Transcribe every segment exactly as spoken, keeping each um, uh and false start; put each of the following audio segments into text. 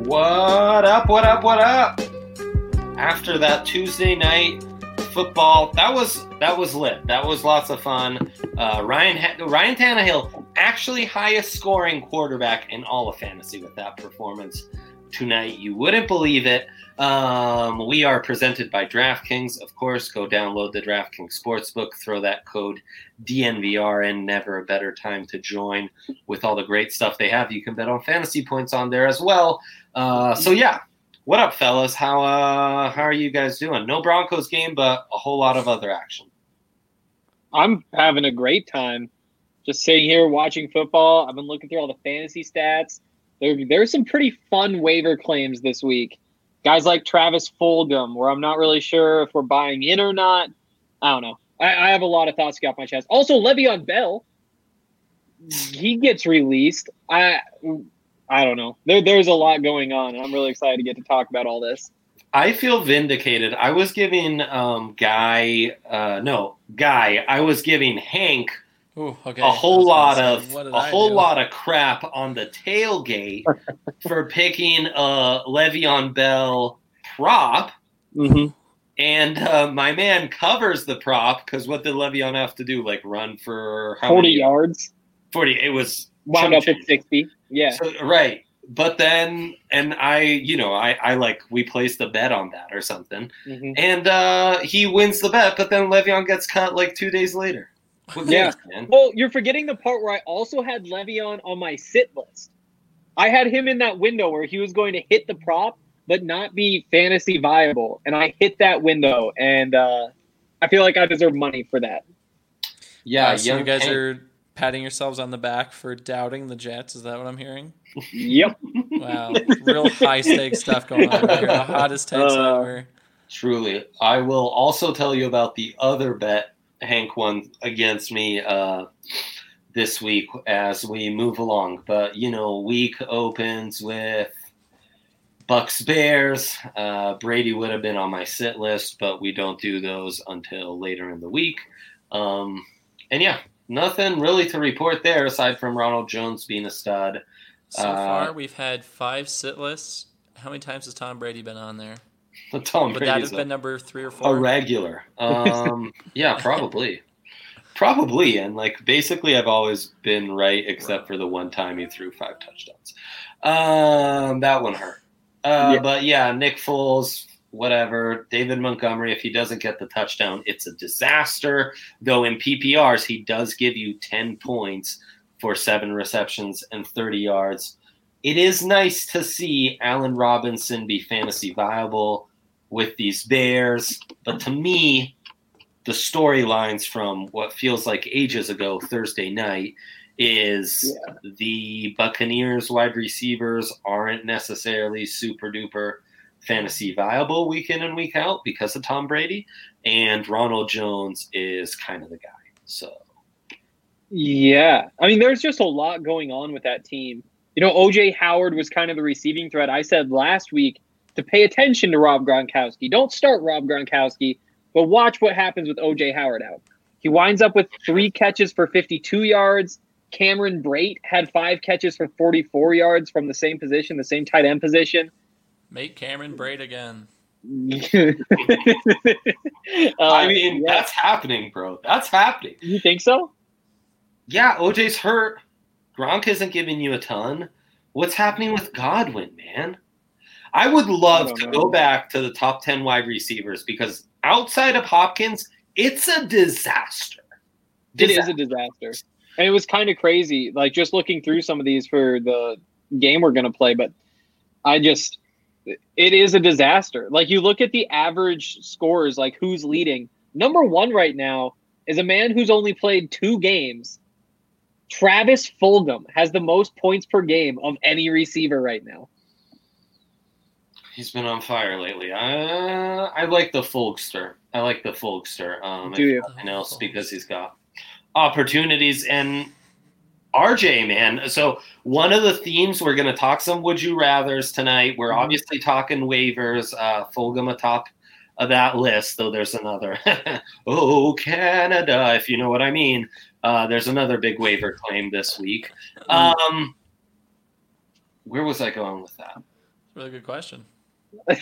What up, what up, what up? After that Tuesday night football, that was that was lit. That was lots of fun. Uh, Ryan Ryan Tannehill, actually highest scoring quarterback in all of fantasy with that performance tonight. You wouldn't believe it. Um, we are presented by DraftKings. Of course, go download the DraftKings Sportsbook. Throw that code D N V R in. Never a better time to join with all the great stuff they have. You can bet on fantasy points on there as well. Uh, so, yeah. What up, fellas? How uh, how are you guys doing? No Broncos game, but a whole lot of other action. I'm having a great time. Just sitting here watching football. I've been looking through all the fantasy stats. There, there's some pretty fun waiver claims this week. Guys like Travis Fulgham, where I'm not really sure if we're buying in or not. I don't know. I, I have a lot of thoughts to get off my chest. Also, Le'Veon Bell, he gets released. I I don't know. There, there's a lot going on, and I'm really excited to get to talk about all this. I feel vindicated. I was giving um, Guy uh, – no, Guy. I was giving Hank – Ooh, okay. A whole lot say, of a I whole do? lot of crap on the tailgate for picking a Le'Veon Bell prop, mm-hmm. and uh, my man covers the prop because what did Le'Veon have to do? Like run for how forty many? yards? Forty. It was wound up at sixty. Yeah, so, right. But then, and I, you know, I, I like we placed a bet on that or something, mm-hmm. and uh, he wins the bet, but then Le'Veon gets cut like two days later. What yeah. Cares, well, you're forgetting the part where I also had Le'Veon on my sit list. I had him in that window where he was going to hit the prop but not be fantasy viable, and I hit that window, and uh, I feel like I deserve money for that. Yeah, uh, so you guys Hank. are patting yourselves on the back for doubting the Jets. Is that what I'm hearing? Yep. Wow, real high stakes stuff going on right here. The hottest takes uh, ever. Truly, I will also tell you about the other bet Hank won against me uh, this week as we move along. But, you know, week opens with Bucks Bears. Uh, Brady would have been on my sit list, but we don't do those until later in the week. Um, and, yeah, nothing really to report there aside from Ronald Jones being a stud. So uh, far, we've had five sit lists. How many times has Tom Brady been on there? Tom Would Brady's that have been a, number three or four? A regular. Um, yeah, probably. Probably. And, like, basically I've always been right except for the one time he threw five touchdowns. Um, that one hurt. Uh, yeah. But, yeah, Nick Foles, whatever. David Montgomery, if he doesn't get the touchdown, it's a disaster. Though in P P Rs, he does give you ten points for seven receptions and thirty yards. It is nice to see Allen Robinson be fantasy viable with these Bears. But to me, the storylines from what feels like ages ago Thursday night is yeah. the Buccaneers wide receivers aren't necessarily super duper fantasy viable week in and week out because of Tom Brady. And Ronald Jones is kind of the guy. So, yeah. I mean, there's just a lot going on with that team. You know, O J Howard was kind of the receiving threat. I said last week to pay attention to Rob Gronkowski. Don't start Rob Gronkowski, but watch what happens with O J Howard out. He winds up with three catches for fifty-two yards. Cameron Brate had five catches for forty-four yards from the same position, the same tight end position. Make Cameron Brate again. uh, I mean, yeah. That's happening, bro. That's happening. You think so? Yeah, O J's hurt. Gronk isn't giving you a ton. What's happening with Godwin, man? I would love I to know. go back to the top ten wide receivers because outside of Hopkins, it's a disaster. disaster. It is a disaster. And it was kind of crazy, like just looking through some of these for the game we're going to play, but I just – it is a disaster. Like you look at the average scores, like who's leading. Number one right now is a man who's only played two games. Travis Fulgham has the most points per game of any receiver right now. He's been on fire lately. Uh, I like the Fulgster. I like the Fulgster. Um, Do you? Nothing else because he's got opportunities. And R J, man. So one of the themes, we're going to talk some would you rathers tonight. We're mm-hmm. obviously talking waivers. Uh, Fulgham atop of that list, though there's another. Oh, Canada, if you know what I mean. Uh, there's another big waiver claim this week. Um, where was I going with that? Really good question. I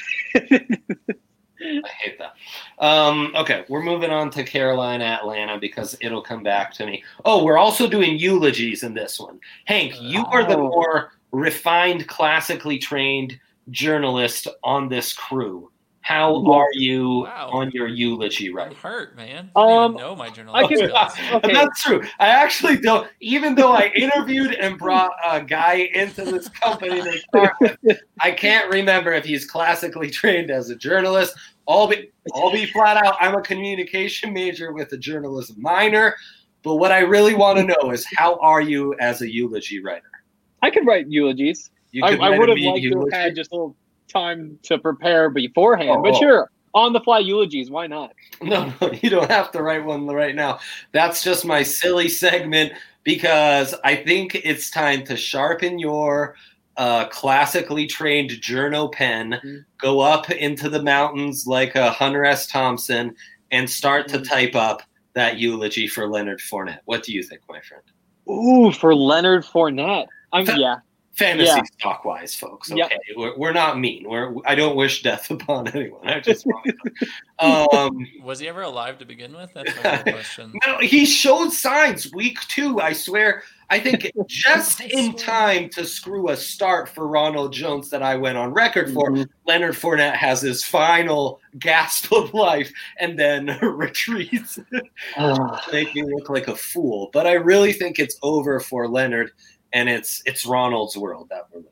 hate that. Um, okay, we're moving on to Carolina, Atlanta, because it'll come back to me. Oh, we're also doing eulogies in this one. Hank, you are the more refined, classically trained journalist on this crew. How are you wow. on your eulogy right? I'm hurt, man. I don't um, even know my journalistic skills. Okay. And that's true. I actually don't. Even though I interviewed and brought a guy into this company to start with, I can't remember if he's classically trained as a journalist. I'll be, I'll be flat out. I'm a communication major with a journalism minor. But what I really want to know is, how are you as a eulogy writer? I could write eulogies. You I, I would have liked eulogy? to have had just a little time to prepare beforehand, oh, but sure, on the fly eulogies, why not? No, no, you don't have to write one right now. That's just my silly segment, because I think it's time to sharpen your uh, classically trained journo pen, mm-hmm. go up into the mountains like a Hunter S. Thompson, and start mm-hmm. to type up that eulogy for Leonard Fournette. What do you think, my friend? Ooh, for Leonard Fournette. I'm Fa- yeah. Fantasy yeah. stock wise, folks. Okay, yep. we're, we're not mean. We're I don't wish death upon anyone. I just want to. Um, was he ever alive to begin with? That's my real question. No, he showed signs week two. I swear. I think just I in time to screw a start for Ronald Jones that I went on record for. Mm-hmm. Leonard Fournette has his final gasp of life and then retreats, make me look like a fool. But I really think it's over for Leonard. And it's it's Ronald's world that we're living.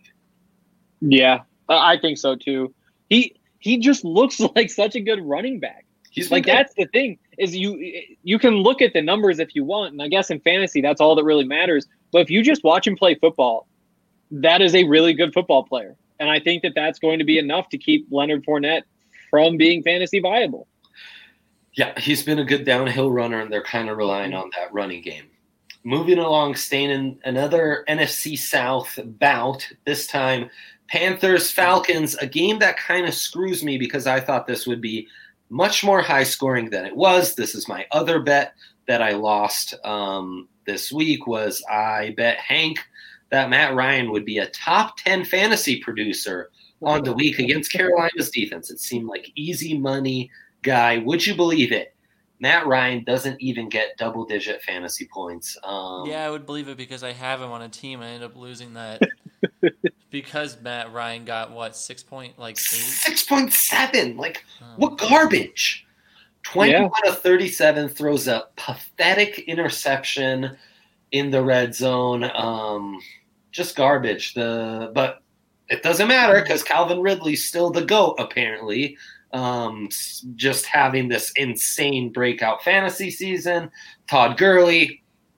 Yeah, I think so too. He he just looks like such a good running back. He's like good. That's the thing is you you can look at the numbers if you want, and I guess in fantasy that's all that really matters. But if you just watch him play football, that is a really good football player, and I think that that's going to be enough to keep Leonard Fournette from being fantasy viable. Yeah, he's been a good downhill runner, and they're kind of relying on that running game. Moving along, staying in another N F C South bout, this time Panthers-Falcons, a game that kind of screws me because I thought this would be much more high-scoring than it was. This is my other bet that I lost um, this week was I bet Hank that Matt Ryan would be a top ten fantasy producer on the week against Carolina's defense. It seemed like easy money guy. Would you believe it? Matt Ryan doesn't even get double-digit fantasy points. Um, yeah, I would believe it because I have him on a team. I ended up losing that because Matt Ryan got, what, six point, like, eight? six point seven. Like, oh. What garbage? twenty-one yeah. of thirty-seven, throws a pathetic interception in the red zone. Um, just garbage. The But it doesn't matter because Calvin Ridley's still the GOAT, apparently. Um, just having this insane breakout fantasy season. Todd Gurley.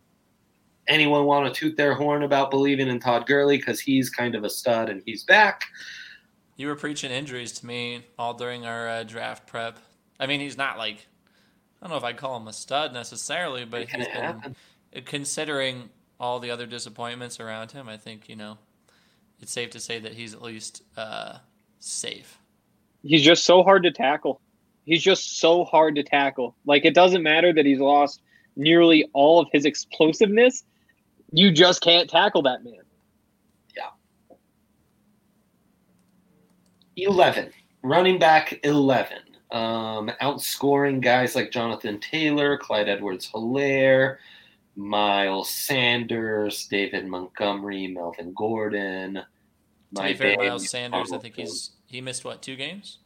Anyone want to toot their horn about believing in Todd Gurley because he's kind of a stud and he's back? You were preaching injuries to me all during our uh, draft prep. I mean, he's not like, I don't know if I'd call him a stud necessarily, but he's been, considering all the other disappointments around him, I think, you know, it's safe to say that he's at least uh, safe. He's just so hard to tackle. He's just so hard to tackle. Like, it doesn't matter that he's lost nearly all of his explosiveness. You just can't tackle that man. Yeah. eleven. Running back eleven. Um, outscoring guys like Jonathan Taylor, Clyde Edwards-Helaire, Miles Sanders, David Montgomery, Melvin Gordon. To be fair, Miles Sanders, I think he's he missed, what, two games?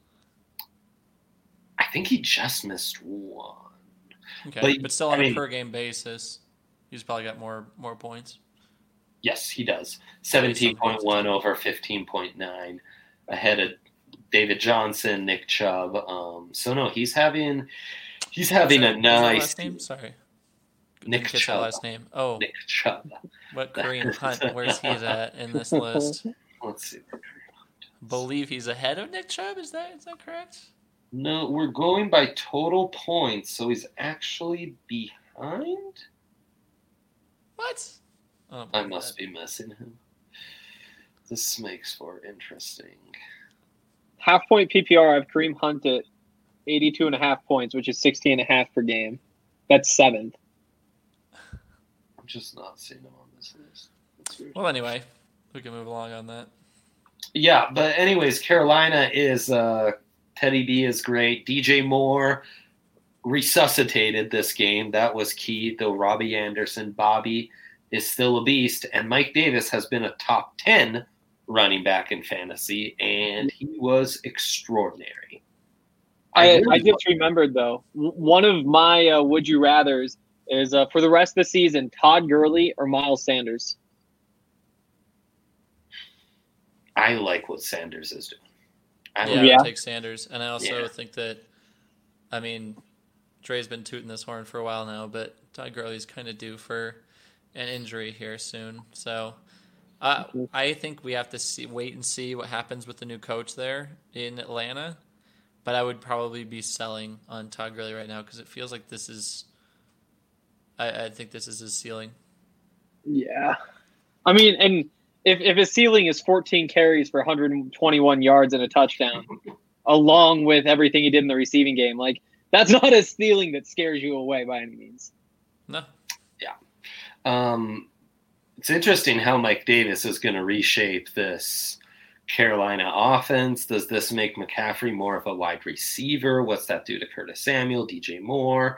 I think he just missed one. Okay, but, but still on I a mean, per-game basis, he's probably got more more points. Yes, he does. seventeen point one over fifteen point nine, ahead of David Johnson, Nick Chubb. Um, so, no, he's having he's having that, a nice... last name? Sorry. Nick Chubb. Last name. Oh. Nick Chubb. What Kareem Hunt, where's he at in this list? Let's see. Believe he's ahead of Nick Chubb. Is that is that correct? No, we're going by total points, so he's actually behind. What? Oh, I must God. be missing him. This makes for interesting. Half point P P R. I have Kareem Hunt at eighty-two and a half points, which is sixty and a half per game. That's seventh. I'm just not seeing him on this list. Well, anyway, we can move along on that. Yeah, but anyways, Carolina is uh, Teddy B is great. D J Moore resuscitated this game. That was key, though Robbie Anderson, Bobby is still a beast, and Mike Davis has been a top ten running back in fantasy, and he was extraordinary. I, I, really I just remembered, though, one of my uh, would you rathers is uh, for the rest of the season, Todd Gurley or Miles Sanders. I like what Sanders is doing. I yeah, yeah. I would take Sanders. And I also yeah. think that, I mean, Dre's been tooting this horn for a while now, but Todd Gurley's kind of due for an injury here soon. So uh, I think we have to see, wait and see what happens with the new coach there in Atlanta. But I would probably be selling on Todd Gurley right now because it feels like this is I, I think this is his ceiling. Yeah. I mean, and if, if his ceiling is fourteen carries for one hundred twenty-one yards and a touchdown, along with everything he did in the receiving game, like, that's not a ceiling that scares you away by any means. No. Yeah. Um, it's interesting how Mike Davis is going to reshape this Carolina offense. Does this make McCaffrey more of a wide receiver? What's that do to Curtis Samuel, D J Moore?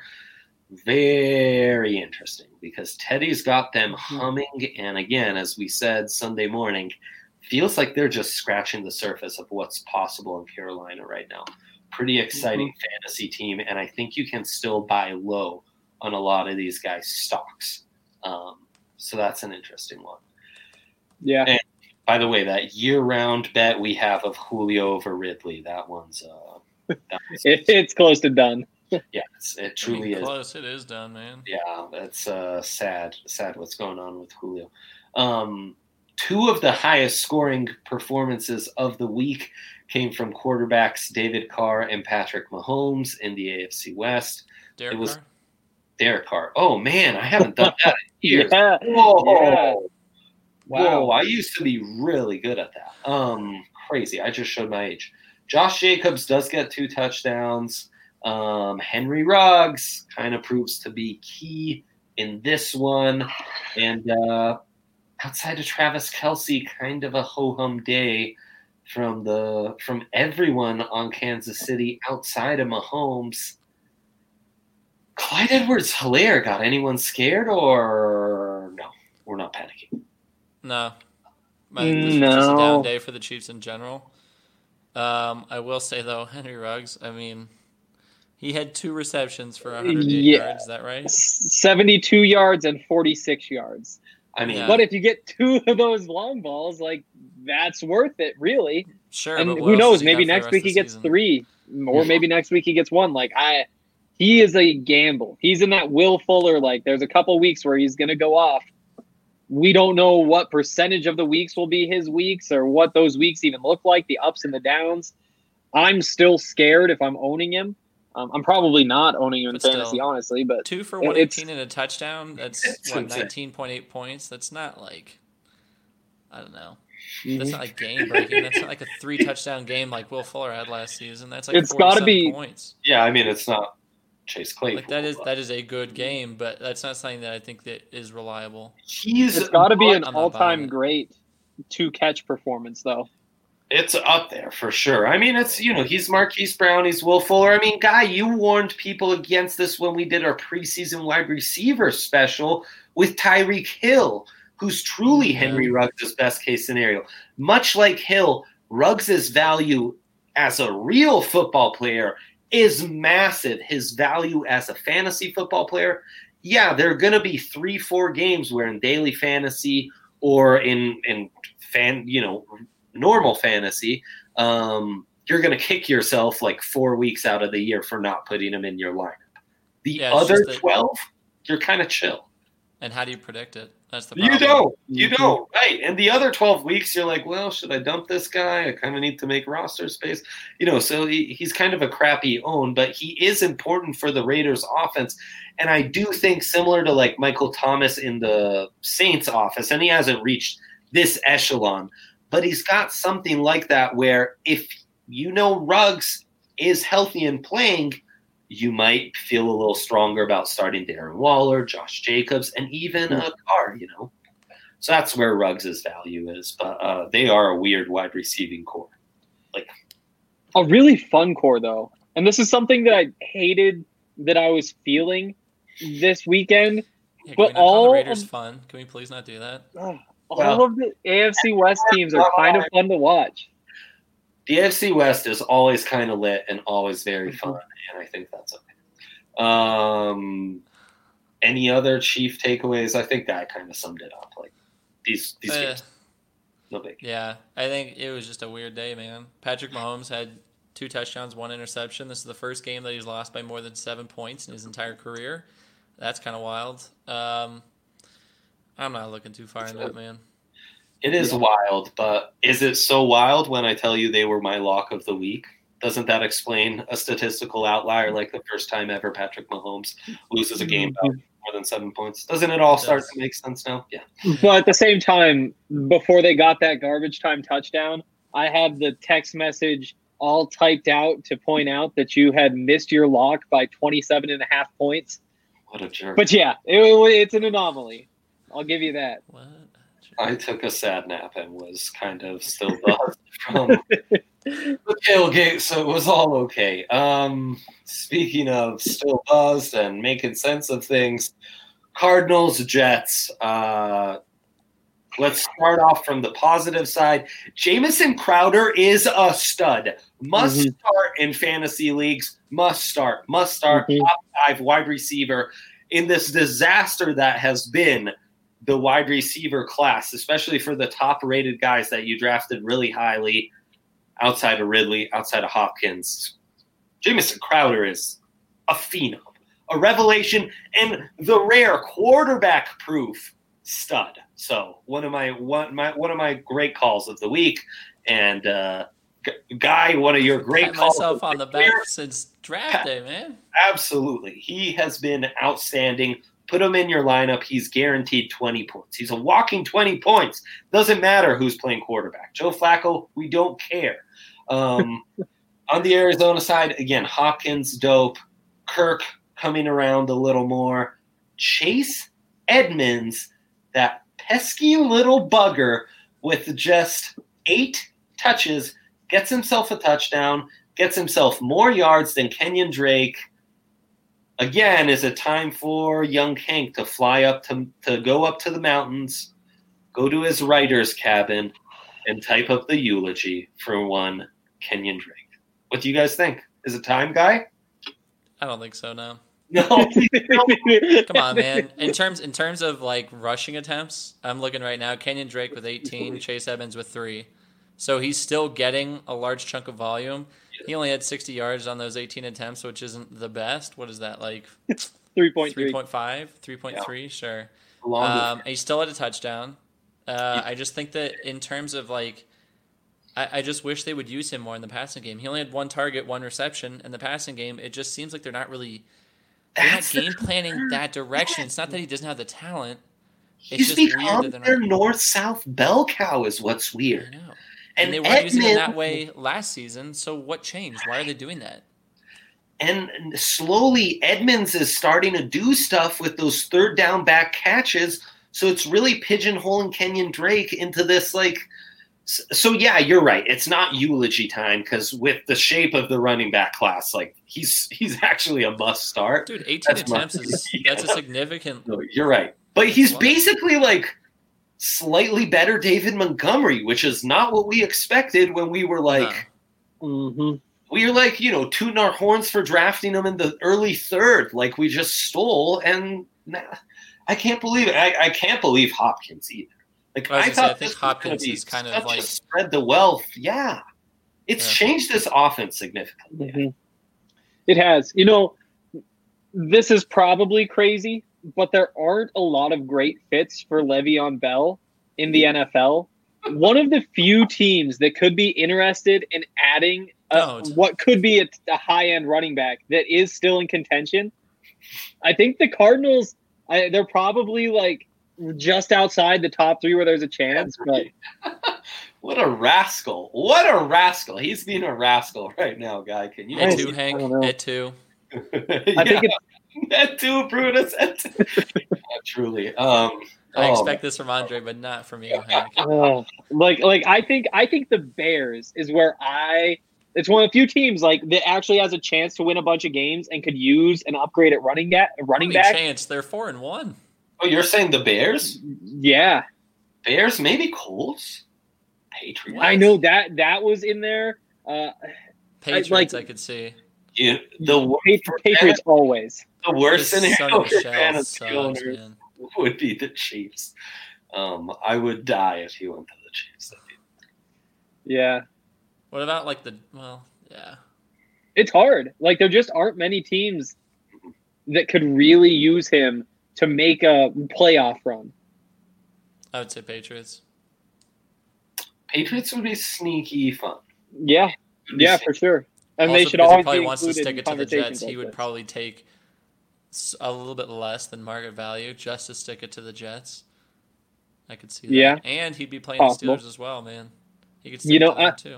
Very interesting because Teddy's got them humming. And again, as we said Sunday morning, feels like they're just scratching the surface of what's possible in Carolina right now. Pretty exciting mm-hmm. fantasy team. And I think you can still buy low on a lot of these guys' stocks. Um, so that's an interesting one. Yeah. And by the way, that year-round bet we have of Julio over Ridley, that one's uh, that it, it's close to done. Yeah, it's, it truly I mean, is. Close, it is done, man. Yeah, that's uh, sad. Sad what's going on with Julio. Um, two of the highest scoring performances of the week came from quarterbacks David Carr and Patrick Mahomes in the A F C West. Derek it was Carr? Derek Carr. Oh man, I haven't done that in years. yeah. Whoa. Yeah. Wow. Whoa, I used to be really good at that. Um, crazy. I just showed my age. Josh Jacobs does get two touchdowns. Um, Henry Ruggs kind of proves to be key in this one. And uh, outside of Travis Kelce, kind of a ho-hum day from the from everyone on Kansas City outside of Mahomes. Clyde Edwards-Helaire got anyone scared, or no? We're not panicking. No. I think this no. was just a down day for the Chiefs in general. Um, I will say, though, Henry Ruggs, I mean, he had two receptions for one hundred eight yeah. yards. Is that right? seventy-two yards and forty-six yards. I mean, yeah. But if you get two of those long balls, like, that's worth it, really. Sure. And who knows? Maybe next week he gets season? three, or maybe next week he gets one. Like, I, he is a gamble. He's in that Will Fuller. Like, there's a couple weeks where he's going to go off. We don't know what percentage of the weeks will be his weeks or what those weeks even look like, the ups and the downs. I'm still scared if I'm owning him. Um, I'm probably not owning him in but fantasy, still, honestly. But two for one eighteen and a touchdown. That's what nineteen point eight points. That's not like I don't know. Mm-hmm. That's not like game breaking. That's not like a three touchdown game like Will Fuller had last season. That's like it's got to be points. Yeah, I mean it's not Chase Claypool. Like that is that is a good game, but that's not something that I think that is reliable. He's it's got to be an all time great two catch performance though. It's up there for sure. I mean, it's, you know, he's Marquise Brown, he's Will Fuller. I mean, Guy, you warned people against this when we did our preseason wide receiver special with Tyreek Hill, who's truly Henry Ruggs' best case scenario. Much like Hill, Ruggs' value as a real football player is massive. His value as a fantasy football player, yeah, there are going to be three, four games where in daily fantasy or in, in fan, you know, normal fantasy, um, you're going to kick yourself like four weeks out of the year for not putting him in your lineup. The yeah, other twelve, you're kind of chill. And how do you predict it? That's the problem. You don't. You mm-hmm. don't. Right. And the other twelve weeks, you're like, well, should I dump this guy? I kind of need to make roster space. You know, so he, he's kind of a crappy own, but he is important for the Raiders offense. And I do think similar to like Michael Thomas in the Saints office, and he hasn't reached this echelon, but he's got something like that where if you know Ruggs is healthy and playing, you might feel a little stronger about starting Darren Waller, Josh Jacobs, and even a Carr, you know. So that's where Ruggs' value is. But uh, they are a weird wide receiving core. Like a really fun core, though. And this is something that I hated that I was feeling this weekend. Yeah, but all the Raiders of, fun. Can we please not do that? Uh, all well, of the A F C West teams are kind of fun to watch. The A F C West is always kind of lit and always very fun, and I think that's okay. Um, any other Chief takeaways? I think that kind of summed it up. Like these these uh, games, no big. Yeah, I think it was just a weird day, man. Patrick Mahomes had two touchdowns, one interception. This is the first game that he's lost by more than seven points in his entire career. That's kind of wild. Um, I'm not looking too far into it, man. It is yeah. wild, but is it so wild when I tell you they were my lock of the week? Doesn't that explain a statistical outlier like the first time ever Patrick Mahomes loses a game by more than seven points? Doesn't it all it start to make sense now? Yeah. But at the same time, before they got that garbage time touchdown, I had the text message all typed out to point out that you had missed your lock by twenty-seven and a half points. What a jerk. But yeah, it, it's an anomaly. I'll give you that. What? I took a sad nap and was kind of still buzzed from the tailgate, so it was all okay. Um, speaking of still buzzed and making sense of things, Cardinals, Jets. Uh, let's start off from the positive side. Jamison Crowder is a stud. Must mm-hmm. start in fantasy leagues. Must start. Must start. Mm-hmm. Top five wide receiver in this disaster that has been the wide receiver class, especially for the top-rated guys that you drafted really highly outside of Ridley, outside of Hopkins. Jamison Crowder is a phenom, a revelation, and the rare quarterback-proof stud. So one of my one my one of my great calls of the week, and uh, Guy, one of your great Pat calls. Myself on the back since draft day, man. Absolutely, he has been outstanding. Put him in your lineup. He's guaranteed twenty points. He's a walking twenty points. Doesn't matter who's playing quarterback. Joe Flacco, we don't care. Um, on the Arizona side, again, Hopkins, dope. Kirk coming around a little more. Chase Edmonds, that pesky little bugger with just eight touches, gets himself a touchdown, gets himself more yards than Kenyon Drake. Again, is it time for young Hank to fly up to to go up to the mountains, go to his writer's cabin, and type up the eulogy for one Kenyon Drake? What do you guys think? Is it time, Guy? I don't think so. No. No. Come on, man. In terms in terms of like rushing attempts, I'm looking right now. Kenyon Drake with eighteen, Chase Edmonds with three. So he's still getting a large chunk of volume. He only had sixty yards on those eighteen attempts, which isn't the best. What is that, like three point three? three point five? three point three, yeah. Sure. Um, and he still had a touchdown. Uh, yeah. I just think that in terms of, like, I, I just wish they would use him more in the passing game. He only had one target, one reception. In the passing game, it just seems like they're not really they're not game planning that direction. It's not that he doesn't have the talent. It's He's just become weird that their not... north-south bell cow is what's weird. I know. And, and they weren't Edmonds, using him that way last season, so what changed? Why are they doing that? And slowly, Edmonds is starting to do stuff with those third down back catches, so it's really pigeonholing Kenyon Drake into this, like... So, yeah, you're right. It's not eulogy time, because with the shape of the running back class, like, he's he's actually a must start. Dude, eighteen that's attempts, my, is yeah. that's a significant... No, you're right. But he's basically, like... slightly better David Montgomery, which is not what we expected when we were like, no. mm-hmm. we were like, you know, tooting our horns for drafting him in the early third, like we just stole. And nah, I can't believe it. I, I can't believe Hopkins either. Like I, I thought, say, I think Hopkins is kind of like spread the wealth. Yeah, it's yeah. changed this offense significantly. Mm-hmm. It has. You know, this is probably crazy, but there aren't a lot of great fits for Le'Veon Bell in the N F L. One of the few teams that could be interested in adding a, what could be a, a high-end running back that is still in contention, I think the Cardinals, I, they're probably like just outside the top three where there's a chance. But what a rascal. What a rascal. He's being a rascal right now, Guy. Can you? At two, Hank. At two. I think it's That too, Brutus. uh, truly. Um, I Oh. expect this from Andre, but not from you, Hank. Oh, like, like I think, I think the Bears is where I. It's one of the few teams like that actually has a chance to win a bunch of games and could use an upgrade at running back. Running back chance. They're four and one. Oh, you're saying the Bears? Yeah, Bears, maybe Colts, Patriots. I know that that was in there. Uh, Patriots, I, like, I could see. You, the Patriots, Patriots always. The worst scenario for fantasy owners would be the Chiefs. Um, I would die if he went to the Chiefs. Yeah. What about like the well, yeah. It's hard. Like there just aren't many teams that could really use him to make a playoff run. I would say Patriots. Patriots would be sneaky fun. Yeah. Yeah, for sure. And also, they should always he probably be wants to stick it to the Jets. Like he would this. probably take a little bit less than market value just to stick it to the Jets. I could see that. Yeah. And he'd be playing Possible. the Steelers as well, man. He could stick you know, to them uh, too.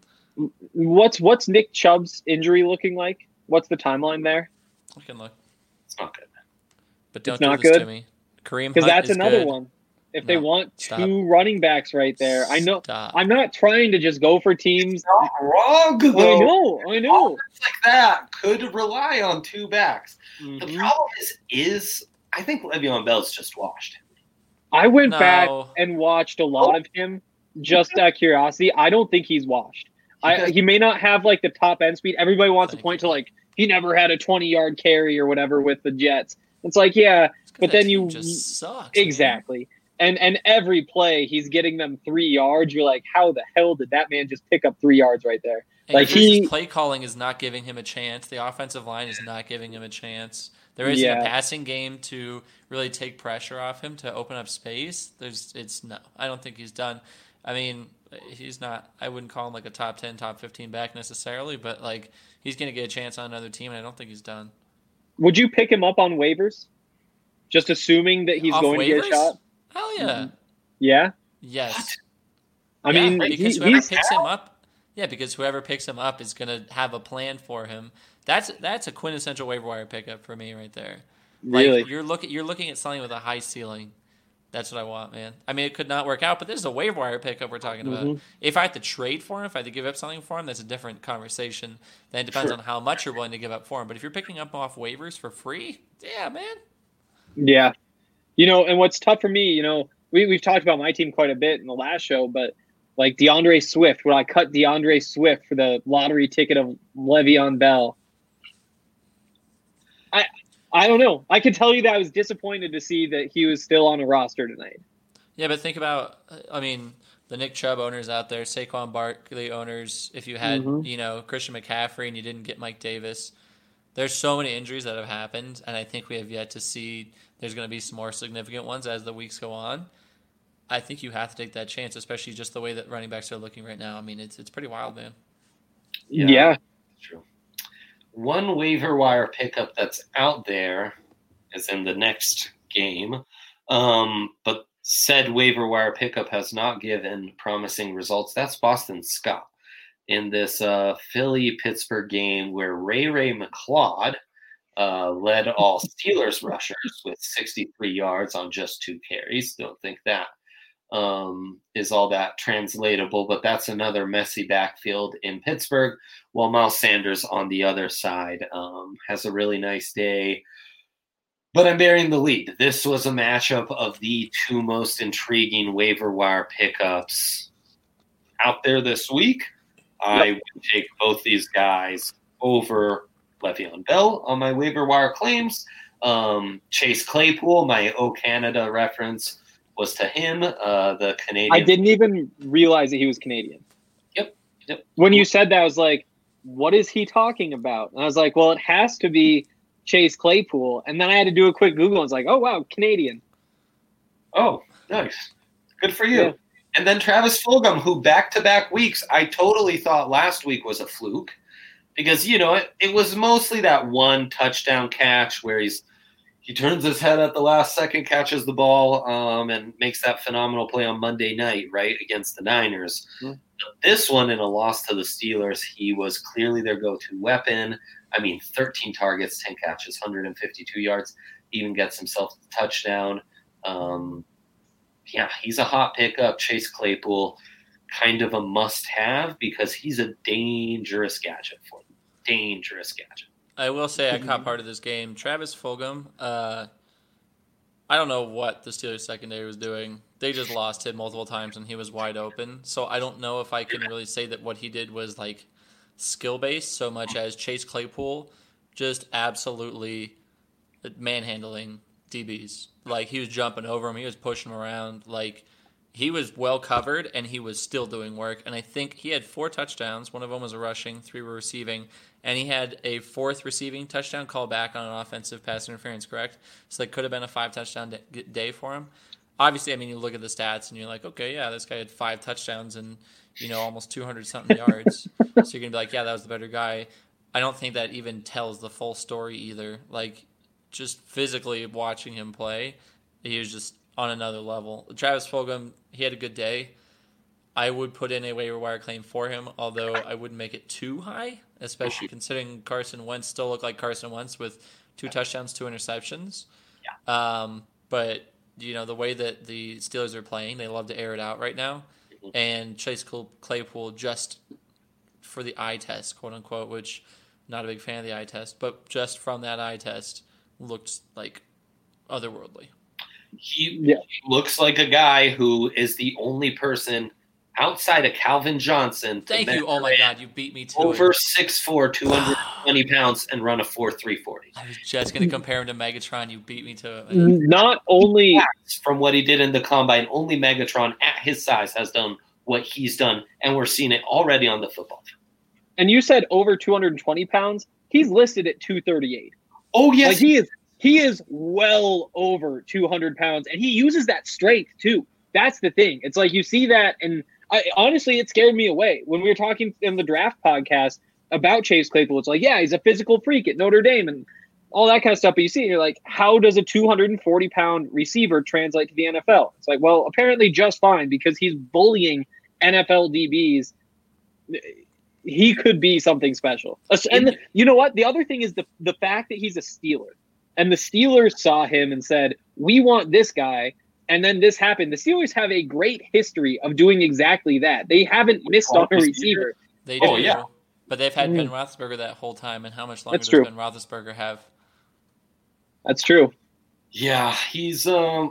What's what's Nick Chubb's injury looking like? What's the timeline there? I can look. It's not good. But don't it's do not this good? to me. Kareem Because Hunt that's is another good. one. If No, they want stop. two running backs right there, I know. Stop. I'm not trying to just go for teams. Not wrong, though. I know. I know. Offense like that could rely on two backs. Mhm. The problem is, is I think Le'Veon Bell's just washed. I went No. back and watched a lot of him just out of curiosity. I don't think he's washed. I, he may not have like the top end speed. Everybody wants Thank to point you. to like he never had a twenty yard carry or whatever with the Jets. It's like yeah, but That then team you just sucks. man. exactly. And and every play he's getting them three yards. You're like, how the hell did that man just pick up three yards right there? And Like, his he- play calling is not giving him a chance. The offensive line is not giving him a chance. There isn't Yeah. a passing game to really take pressure off him to open up space. There's, it's no. I don't think he's done. I mean, he's not. I wouldn't call him like a top ten, top fifteen back necessarily, but like he's going to get a chance on another team, and I don't think he's done. Would you pick him up on waivers? Just assuming that he's Off going to get a waivers? shot. Hell yeah, Yeah. yes. I Yeah, mean, because he, whoever he's picks him up, yeah, because whoever picks him up is going to have a plan for him. That's that's a quintessential waiver wire pickup for me right there. Like, really. you're looking you're looking at something with a high ceiling. That's what I want, man. I mean, it could not work out, but this is a waiver wire pickup we're talking about. Mhm. If I had to trade for him, if I had to give up something for him, that's a different conversation. Then it depends Sure. on how much you're willing to give up for him. But if you're picking up off waivers for free, yeah, man. Yeah. You know, and what's tough for me, you know, we, we've talked about my team quite a bit in the last show, but like DeAndre Swift, when I cut DeAndre Swift for the lottery ticket of Le'Veon Bell, I I don't know. I can tell you that I was disappointed to see that he was still on a roster tonight. Yeah, but think about, I mean, the Nick Chubb owners out there, Saquon Barkley owners, if you had, Mhm. you know, Christian McCaffrey and you didn't get Mike Davis, there's so many injuries that have happened, and I think we have yet to see there's going to be some more significant ones as the weeks go on. I think you have to take that chance, especially just the way that running backs are looking right now. I mean, it's it's pretty wild, man. Yeah. Yeah. True. One waiver wire pickup that's out there is in the next game, um, but said waiver wire pickup has not given promising results. That's Boston Scott in this uh, Philly-Pittsburgh game where Ray Ray McLeod uh, led all Steelers rushers with sixty-three yards on just two carries. Don't think that um, is all that translatable, but that's another messy backfield in Pittsburgh, while Miles Sanders on the other side um, has a really nice day. But I'm bearing the lead. This was a matchup of the two most intriguing waiver wire pickups out there this week. I would take both these guys over Le'Veon Bell on my waiver wire claims. Um, Chase Claypool, my O Canada reference was to him, uh, the Canadian. I didn't even realize that he was Canadian. Yep. Yep. When you said that, I was like, what is he talking about? And I was like, well, it has to be Chase Claypool. And then I had to do a quick Google and it's like, oh, wow, Canadian. Oh, nice. Good for you. Yeah. And then Travis Fulgham, who back-to-back weeks, I totally thought last week was a fluke because, you know, it, it was mostly that one touchdown catch where he's he turns his head at the last second, catches the ball, um, and makes that phenomenal play on Monday night, right, against the Niners. Mm-hmm. This one, in a loss to the Steelers, he was clearly their go-to weapon. I mean, thirteen targets, ten catches, one hundred fifty-two yards. He even gets himself a touchdown. Um, yeah, he's a hot pickup. Chase Claypool, kind of a must-have because he's a dangerous gadget for them. Dangerous gadget. I will say I caught part of this game. Travis Fulgham, uh, I don't know what the Steelers secondary was doing. They just lost him multiple times and he was wide open. So I don't know if I can really say that what he did was like skill-based so much as Chase Claypool just absolutely manhandling D Bs. Like, he was jumping over him. He was pushing him around. Like, he was well covered, and he was still doing work. And I think he had four touchdowns. One of them was a rushing, three were receiving. And he had a fourth receiving touchdown call back on an offensive pass interference, correct? So it could have been a five-touchdown day for him. Obviously, I mean, you look at the stats, and you're like, okay, yeah, this guy had five touchdowns and, you know, almost two hundred something yards. So you're going to be like, yeah, that was the better guy. I don't think that even tells the full story either. Like, just physically watching him play, he was just on another level. Travis Fulgham, he had a good day. I would put in a waiver wire claim for him, although I wouldn't make it too high, especially considering Carson Wentz still looked like Carson Wentz with two touchdowns, two interceptions. Yeah. Um, but, you know, the way that the Steelers are playing, they love to air it out right now. And Chase Claypool, just for the eye test, quote unquote, which not a big fan of the eye test, but just from that eye test, looked like otherworldly. He yeah. looks like a guy who is the only person outside of Calvin Johnson. Thank you. Oh my God, you beat me to over it. six foot four, two hundred twenty pounds, and run a four three forty. I was just going to compare him to Megatron. You beat me to it. Not only from what he did in the combine, only Megatron at his size has done what he's done, and we're seeing it already on the football field. And you said over two hundred twenty pounds. He's listed at two thirty-eight. Oh yes, like he is. He is well over two hundred pounds, and he uses that strength too. That's the thing. It's like you see that, and I, honestly, it scared me away when we were talking in the draft podcast about Chase Claypool. It's like, yeah, he's a physical freak at Notre Dame and all that kind of stuff. But you see, you're like, how does a two hundred forty pound receiver translate to the N F L? It's like, well, apparently just fine because he's bullying N F L D Bs. He could be something special. And you know what? The other thing is the the fact that he's a Steeler. And the Steelers saw him and said, we want this guy. And then this happened. The Steelers have a great history of doing exactly that. They haven't missed on a receiver. They do. Oh, yeah. But they've had Ben Roethlisberger that whole time. And how much longer That's does true. Ben Roethlisberger have? That's true. Yeah, he's um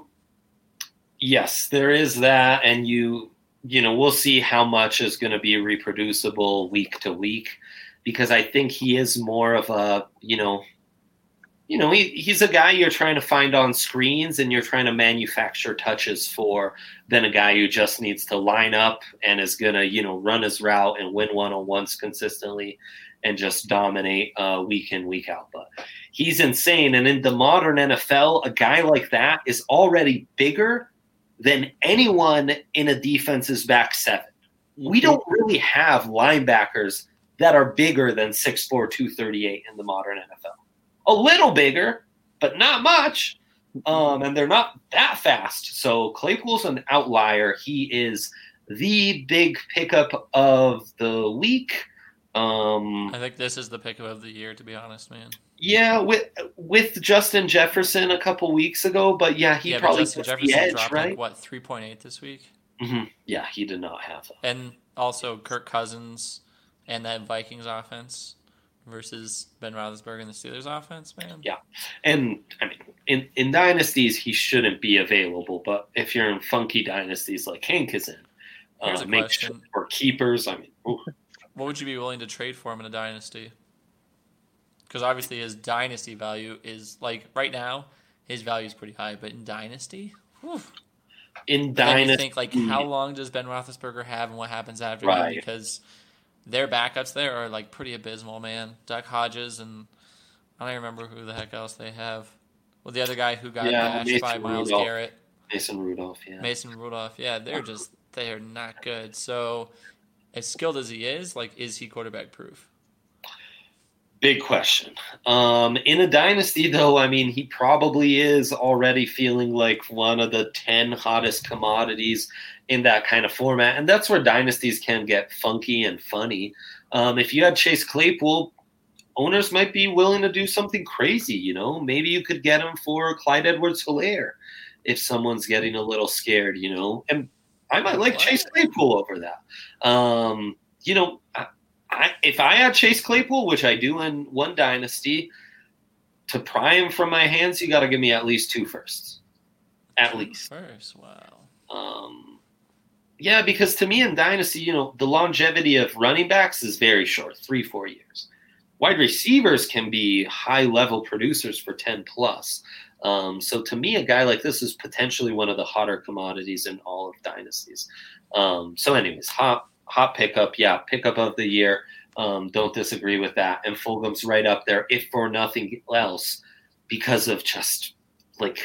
yes, there is that. And you you know, we'll see how much is going to be reproducible week to week. Because I think he is more of a, you know, You know, he, he's a guy you're trying to find on screens and you're trying to manufacture touches for than a guy who just needs to line up and is going to, you know, run his route and win one-on-ones consistently and just dominate uh, week in, week out. But he's insane. And in the modern N F L, a guy like that is already bigger than anyone in a defense's back seven. We don't really have linebackers that are bigger than six foot four, two thirty-eight in the modern N F L. A little bigger, but not much. Um, and they're not that fast. So Claypool's an outlier. He is the big pickup of the week. Um, I think this is the pickup of the year, to be honest, man. Yeah, with with Justin Jefferson a couple weeks ago, but yeah, he yeah, probably Justin gets Jefferson the edge, dropped right? Like, what, three point eight this week? Mm-hmm. Yeah, he did not have that. And also Kirk Cousins and that Vikings offense versus Ben Roethlisberger and the Steelers offense, man. Yeah, and I mean, in, in dynasties, he shouldn't be available. But if you're in funky dynasties like Hank is in, Here's uh, a make question. sure for keepers, I mean, ooh. What would you be willing to trade for him in a dynasty? Because obviously his dynasty value is, like, right now, his value is pretty high. But in dynasty, whew. in But then dynasty, you think, like, how long does Ben Roethlisberger have and what happens after Right. him? Because their backups there are, like, pretty abysmal, man. Duck Hodges and I don't even remember who the heck else they have. Well, the other guy who got Yeah, bashed Mason by Myles Rudolph. Garrett. Mason Rudolph, yeah. Mason Rudolph, yeah, they're just, they are not good. So, as skilled as he is, like, is he quarterback proof? Big question. Um, in a dynasty, though, I mean, he probably is already feeling like one of the ten hottest commodities in that kind of format. And that's where dynasties can get funky and funny. Um, if you had Chase Claypool, owners might be willing to do something crazy, you know? Maybe you could get him for Clyde Edwards-Helaire if someone's getting a little scared, you know, and I might like Chase Claypool over that. Um, you know, I, I, if I had Chase Claypool, which I do in one dynasty, to pry him from my hands, you got to give me at least two firsts. At two least. First, wow. Um, yeah, because to me in dynasty, you know, the longevity of running backs is very short, three, four years. Wide receivers can be high-level producers for ten plus. Um, so to me, a guy like this is potentially one of the hotter commodities in all of dynasties. Um, so anyways, hot hot pickup. Yeah, pickup of the year. Um, don't disagree with that. And Fulgham's right up there, if for nothing else, because of just like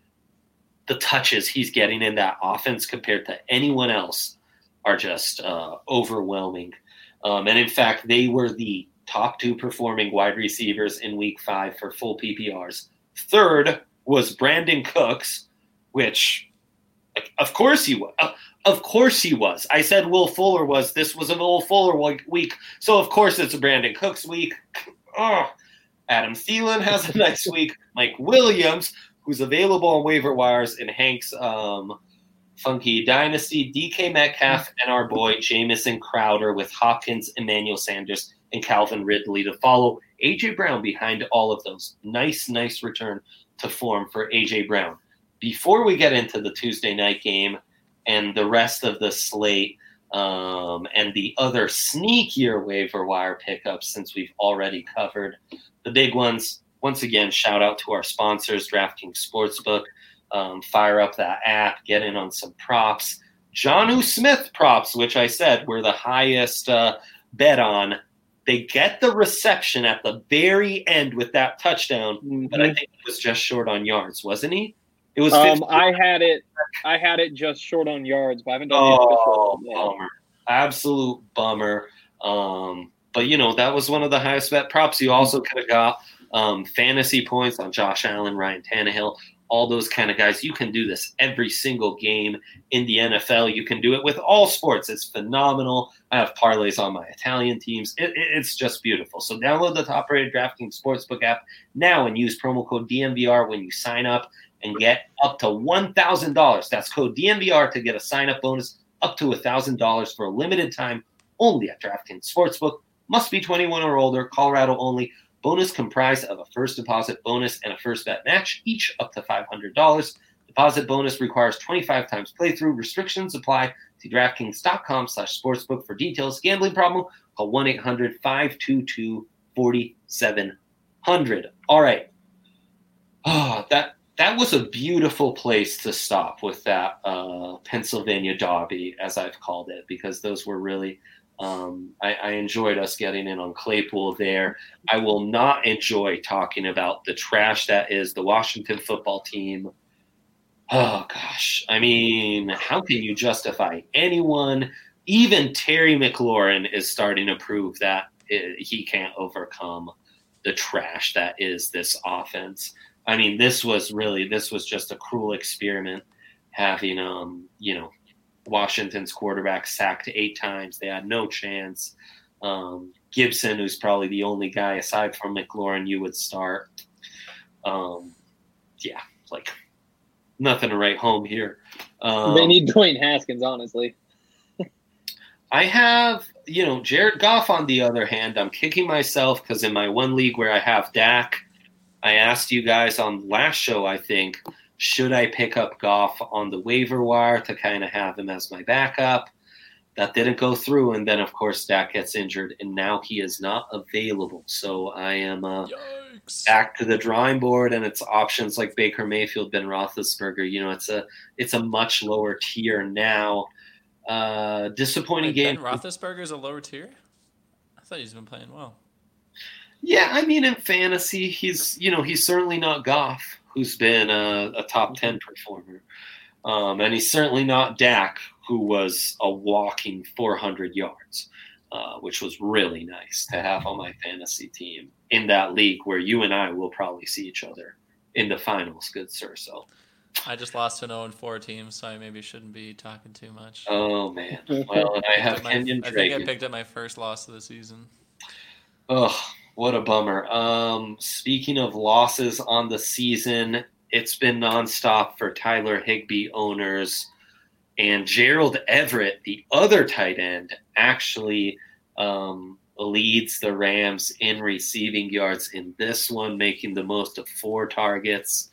the touches he's getting in that offense compared to anyone else are just uh, overwhelming. Um, and in fact, they were the top two performing wide receivers in week five for full P P Rs. Third was Brandon Cooks, which, like, of course he was. Uh, of course he was. I said Will Fuller was. This was a Will Fuller week, so of course it's a Brandon Cooks week. Oh, Adam Thielen has a nice week. Mike Williams, who's available on waiver wires in Hank's um, Funky Dynasty. D K Metcalf and our boy Jamison Crowder with Hopkins, Emmanuel Sanders, and Calvin Ridley to follow. A J Brown behind all of those. Nice, nice return to form for A J Brown. Before we get into the Tuesday night game and the rest of the slate um, and the other sneakier waiver wire pickups, since we've already covered the big ones, once again, shout out to our sponsors, DraftKings Sportsbook. Um, fire up that app, get in on some props. Jonnu Smith props, which I said were the highest uh, bet on. They get the reception at the very end with that touchdown, mm-hmm. but I think it was just short on yards, wasn't he? It was. Um, I had it. I had it just short on yards, but I haven't done oh, the official. Bummer! Absolute bummer. Um, but you know that was one of the highest bet props. You also could have got um, fantasy points on Josh Allen, Ryan Tannehill. All those kind of guys. You can do this every single game in the N F L. You can do it with all sports. It's phenomenal. I have parlays on my Italian teams. It, it, it's just beautiful. So download the top-rated DraftKings Sportsbook app now and use promo code D M V R when you sign up and get up to one thousand dollars. That's code D M V R to get a sign-up bonus up to one thousand dollars for a limited time only at DraftKings Sportsbook. Must be twenty-one or older, Colorado only. Bonus comprised of a first deposit bonus and a first bet match, each up to five hundred dollars. Deposit bonus requires twenty-five times playthrough. Restrictions apply. See DraftKings.com slash sportsbook for details. Gambling problem? Call one eight hundred five two two four seven zero zero. All right. Oh, that that was a beautiful place to stop with that uh, Pennsylvania Derby, as I've called it, because those were really – Um, I, I enjoyed us getting in on Claypool there. I will not enjoy talking about the trash that is the Washington football team. Oh, gosh. I mean, how can you justify anyone? Even Terry McLaurin is starting to prove that it, he can't overcome the trash that is this offense. I mean, this was really, this was just a cruel experiment having, um, you know, Washington's quarterback sacked eight times. They had no chance. Um, Gibson, who's probably the only guy aside from McLaurin you would start. Um, yeah, like nothing to write home here. Um, they need Dwayne Haskins, honestly. I have, you know, Jared Goff on the other hand. I'm kicking myself because in my one league where I have Dak, I asked you guys on last show, I think, should I pick up Goff on the waiver wire to kind of have him as my backup? That didn't go through, and then, of course, Dak gets injured, and now he is not available. So I am uh, back to the drawing board, and it's options like Baker Mayfield, Ben Roethlisberger. You know, it's a it's a much lower tier now. Uh, disappointing Wait, game. Ben Roethlisberger is a lower tier? I thought he's been playing well. Yeah, I mean, in fantasy, he's you know he's certainly not Goff, who's been a, a top ten performer. Um, and he's certainly not Dak, who was a walking four hundred yards, uh, which was really nice to have on my fantasy team in that league where you and I will probably see each other in the finals, good sir. So I just lost to an oh and four team, so I maybe shouldn't be talking too much. Oh, man. Well, and I have my, Kenyon I Dragon. think I picked up my first loss of the season. Oh, what a bummer. Um, speaking of losses on the season, it's been nonstop for Tyler Higbee owners. And Gerald Everett, the other tight end, actually um, leads the Rams in receiving yards in this one, making the most of four targets.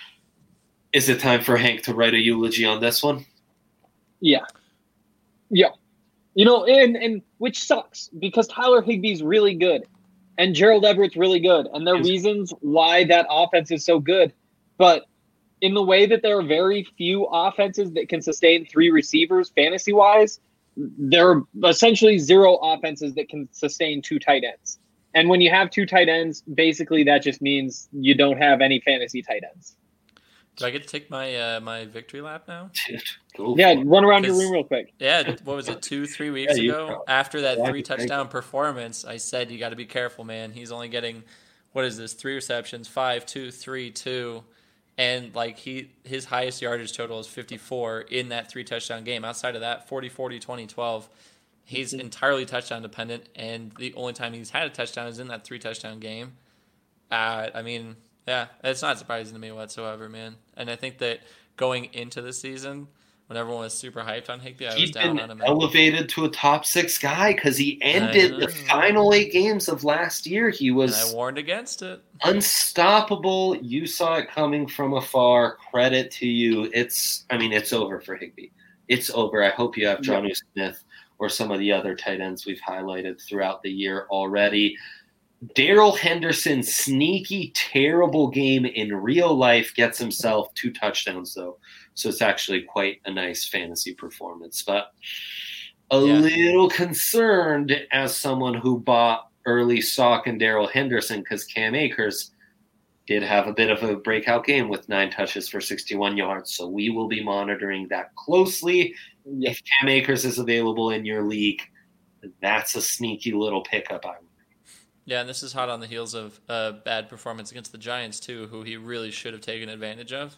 Is it time for Hank to write a eulogy on this one? Yeah. Yeah. You know, and, and which sucks because Tyler Higbee's really good and Gerald Everett's really good. And there are reasons why that offense is so good. But in the way that there are very few offenses that can sustain three receivers fantasy-wise, there are essentially zero offenses that can sustain two tight ends. And when you have two tight ends, basically that just means you don't have any fantasy tight ends. Do I get to take my uh, my victory lap now? Yeah, run around your room real quick. Yeah, what was it, two, three weeks yeah, ago? After that three touchdown performance, I said you got to be careful, man. He's only getting, what is this, three receptions, five, two, three, two. And like he, his highest yardage total is fifty-four in that three touchdown game. Outside of that, forty, forty, twenty, twelve. He's mm-hmm. entirely touchdown dependent, and the only time he's had a touchdown is in that three touchdown game. Uh, I mean, yeah, it's not surprising to me whatsoever, man. And I think that going into the season, when everyone was super hyped on Higbee, I was He's down been on him. elevated to a top six guy because he ended the final eight games of last year. He was and I warned against it. Unstoppable. You saw it coming from afar. Credit to you. It's, I mean, it's over for Higbee. It's over. I hope you have Jonnu yeah. Smith or some of the other tight ends we've highlighted throughout the year already. Darrell Henderson, sneaky, terrible game in real life, gets himself two touchdowns, though. So it's actually quite a nice fantasy performance. But a yeah. little concerned as someone who bought early stock in Darrell Henderson because Cam Akers did have a bit of a breakout game with nine touches for sixty-one yards. So we will be monitoring that closely. Yeah. If Cam Akers is available in your league, that's a sneaky little pickup, I would. Yeah, and this is hot on the heels of a bad performance against the Giants, too, who he really should have taken advantage of.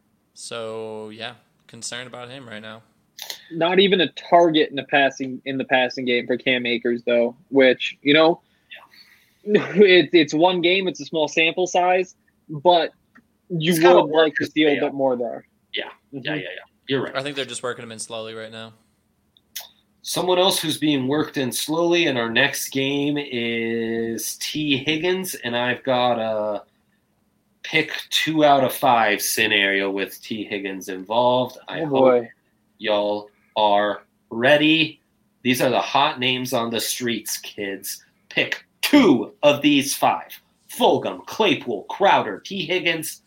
So, yeah, concerned about him right now. Not even a target in the passing in the passing game for Cam Akers, though, which, you know, yeah. it, it's one game, it's a small sample size, but you it's would like to see a bit more there. Yeah, mm-hmm. yeah, yeah, yeah. You're right. I think they're just working him in slowly right now. Someone else who's being worked in slowly in our next game is T. Higgins, and I've got a pick two out of five scenario with T. Higgins involved. I oh hope boy. y'all are ready. These are the hot names on the streets, kids. Pick two of these five. Fulgham, Claypool, Crowder, T. Higgins,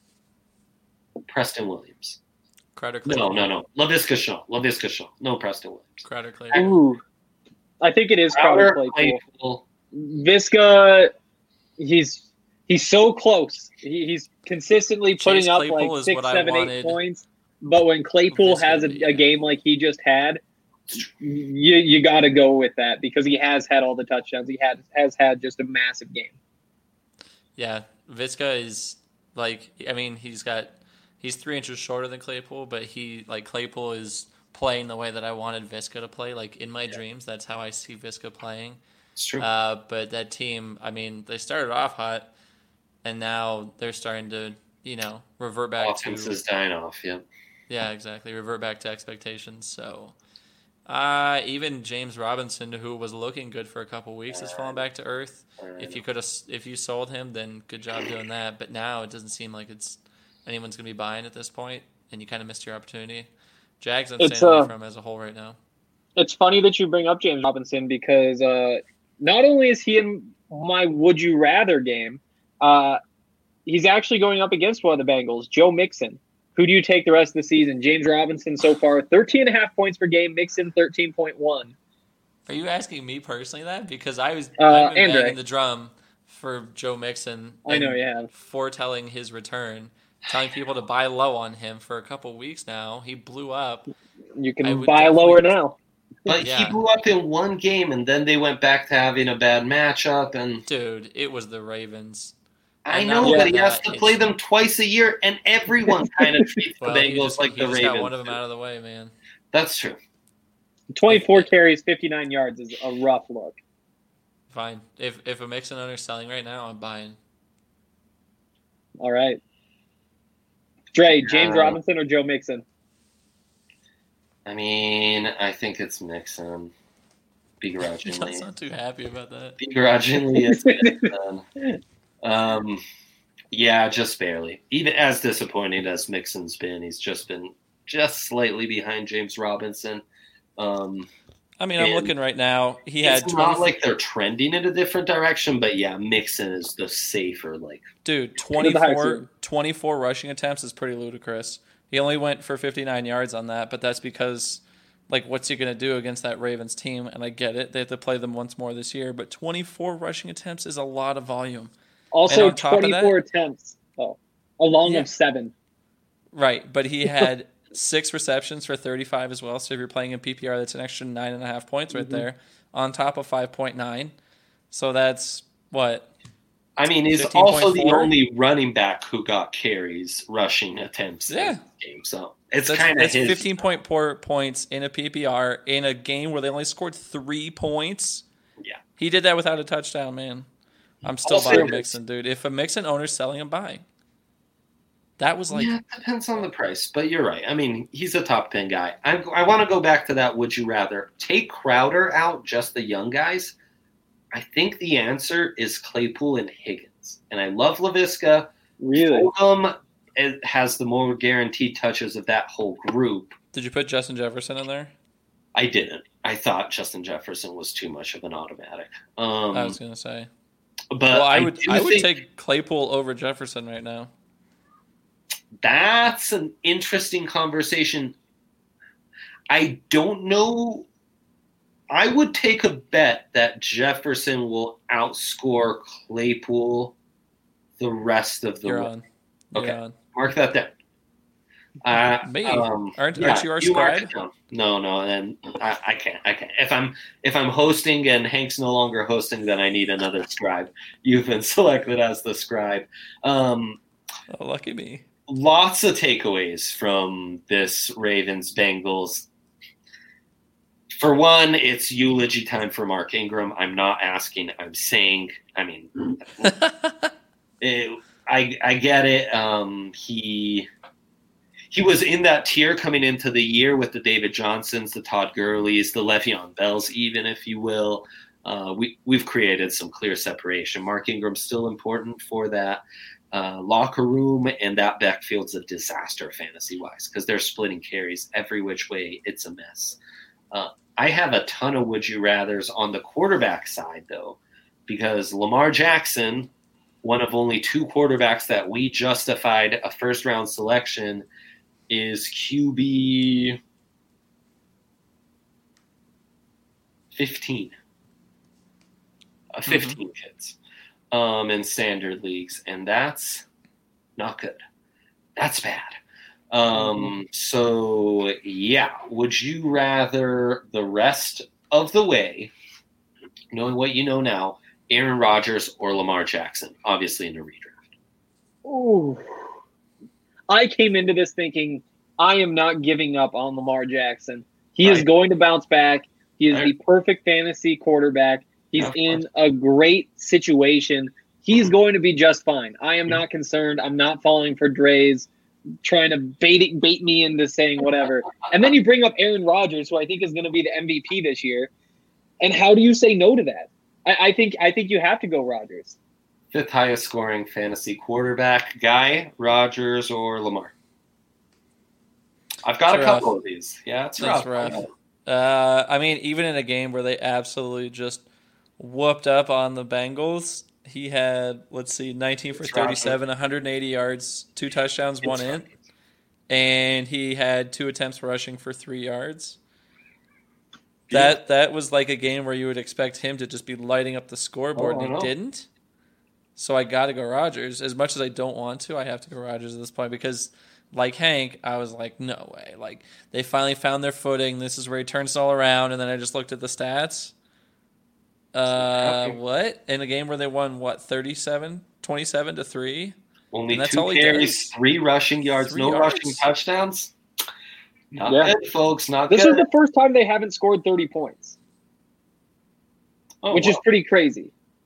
Preston Williams. Crowder, Claypool. No, no, no. LaVisca Shaw. LaVisca Shaw. No Preston Williams. Crowder, Claypool. Ooh. I think it is Crowder, Crowder, Claypool. Claypool. Visca, he's he's so close. He, he's consistently putting Chase up Claypool like six, seven, wanted. eight points. But when Claypool Visca has a, be, a game like he just had, you you got to go with that because he has had all the touchdowns. He had has had just a massive game. Yeah, Visca is like, I mean, he's got he's three inches shorter than Claypool, but he like Claypool is playing the way that I wanted Visca to play. Like in my yeah. dreams, that's how I see Visca playing. It's true. Uh, but that team, I mean, they started off hot, and now they're starting to, you know, revert back Offense to. is dying off. Yeah. Yeah, exactly. Revert back to expectations. So, uh, even James Robinson, who was looking good for a couple weeks, has fallen back to earth. If you could have, if you sold him, then good job doing that. But now it doesn't seem like it's anyone's going to be buying at this point, and you kind of missed your opportunity. Jags, I'm staying away uh, from him as a whole right now. It's funny that you bring up James Robinson because uh, not only is he in my would you rather game, uh, he's actually going up against one of the Bengals, Joe Mixon. Who do you take the rest of the season? James Robinson so far, thirteen and a half points per game, Mixon thirteen point one. Are you asking me personally that? Because I was uh, I've been Andre. banging the drum for Joe Mixon. I know you have. Foretelling his return, telling people to buy low on him for a couple weeks now. He blew up. You can buy lower now. But yeah. he blew up in one game, and then they went back to having a bad matchup. And dude, it was the Ravens. I know, but he has to play them twice a year, and everyone kind of treats well, the Bengals just, like the just Ravens. Got one of them out of the way, man. That's true. twenty-four carries, fifty-nine yards is a rough look. Fine. If if a Mixon owner's selling right now, I'm buying. All right. Dre, James uh, Robinson or Joe Mixon? I mean, I think it's Mixon. Begrudgingly. I'm not too happy about that. Begrudgingly, it's Mixon. Um, yeah, just barely. Even as disappointing as Mixon's been, he's just been just slightly behind James Robinson. Um, I mean, I'm looking right now. He had it's twenty not like they're trending in a different direction, but yeah, Mixon is the safer. Like, dude, twenty-four, twenty-four rushing attempts is pretty ludicrous. He only went for fifty-nine yards on that, but that's because, like, what's he going to do against that Ravens team? And I get it. They have to play them once more this year, but twenty-four rushing attempts is a lot of volume. Also, twenty-four that, attempts, oh, along yeah. of seven. Right, but he had six receptions for thirty-five as well. So if you're playing in P P R, that's an extra nine and a half points right mm-hmm. there on top of five point nine. So that's what? I mean, he's also the only running back who got carries, rushing attempts yeah. in the game. So it's that's, kind of his fifteen point four points in a P P R in a game where they only scored three points. Yeah, he did that without a touchdown, man. I'm still also, buying Mixon, dude. If a Mixon owner's selling, I'm buying. That was like... Yeah, it depends on the price, but you're right. I mean, he's a top ten guy. I, I want to go back to that would you rather. Take Crowder out, just the young guys. I think the answer is Claypool and Higgins. And I love LaVisca. Really? Fulgham has the more guaranteed touches of that whole group. Did you put Justin Jefferson in there? I didn't. I thought Justin Jefferson was too much of an automatic. Um, I was going to say. But well, I would I, I would think take Claypool over Jefferson right now. That's an interesting conversation. I don't know. I would take a bet that Jefferson will outscore Claypool the rest of the You're way. on. You're okay, on. Mark that down. Uh, Me? Um, aren't, yeah, aren't you our you scribe? No, no, and I, I can't. I can't. If I'm if I'm hosting and Hank's no longer hosting, then I need another scribe. You've been selected as the scribe. Um, oh, lucky me. Lots of takeaways from this Ravens Bengals. For one, it's eulogy time for Mark Ingram. I'm not asking. I'm saying. I mean, it, I I get it. Um, he. He was in that tier coming into the year with the David Johnsons, the Todd Gurleys, the Le'Veon Bells, even if you will. Uh, we, we've created some clear separation. Mark Ingram's still important for that uh, locker room, and that backfield's a disaster fantasy-wise because they're splitting carries every which way. It's a mess. Uh, I have a ton of would-you-rathers on the quarterback side, though, because Lamar Jackson, one of only two quarterbacks that we justified a first-round selection, is Q B fifteen. Uh, fifteen mm-hmm. kids um, in standard leagues, and that's not good. That's bad. Um, mm-hmm. So, yeah, would you rather the rest of the way, knowing what you know now, Aaron Rodgers or Lamar Jackson, obviously in a redraft? Ooh. I came into this thinking I am not giving up on Lamar Jackson. He right. is going to bounce back. He is right. the perfect fantasy quarterback. He's yeah, in a great situation. He's going to be just fine. I am not concerned. I'm not falling for Dre's trying to bait it, bait me into saying whatever. And then you bring up Aaron Rodgers, who I think is going to be the M V P this year. And how do you say no to that? I, I think I think you have to go Rodgers. Fifth highest scoring fantasy quarterback, Guy, Rodgers, or Lamar? I've got it's a couple rough. of these. Yeah, it's rough. rough. Uh, I mean, even in a game where they absolutely just whooped up on the Bengals, he had, let's see, nineteen for thirty-seven, one hundred eighty yards, two touchdowns, one it's in. And he had two attempts rushing for three yards. Yeah. That that was like a game where you would expect him to just be lighting up the scoreboard, oh, and he didn't. So I got to go Rodgers. As much as I don't want to, I have to go Rodgers at this point because, like Hank, I was like, no way. Like, they finally found their footing. This is where he turns it all around. And then I just looked at the stats. Uh, what? In a game where they won, what, thirty-seven, twenty-seven to three? Only two carries, three rushing yards, three no yards. rushing touchdowns. Not yeah. good, folks. Not this good. This is the first time they haven't scored thirty points, oh, which wow. is pretty crazy.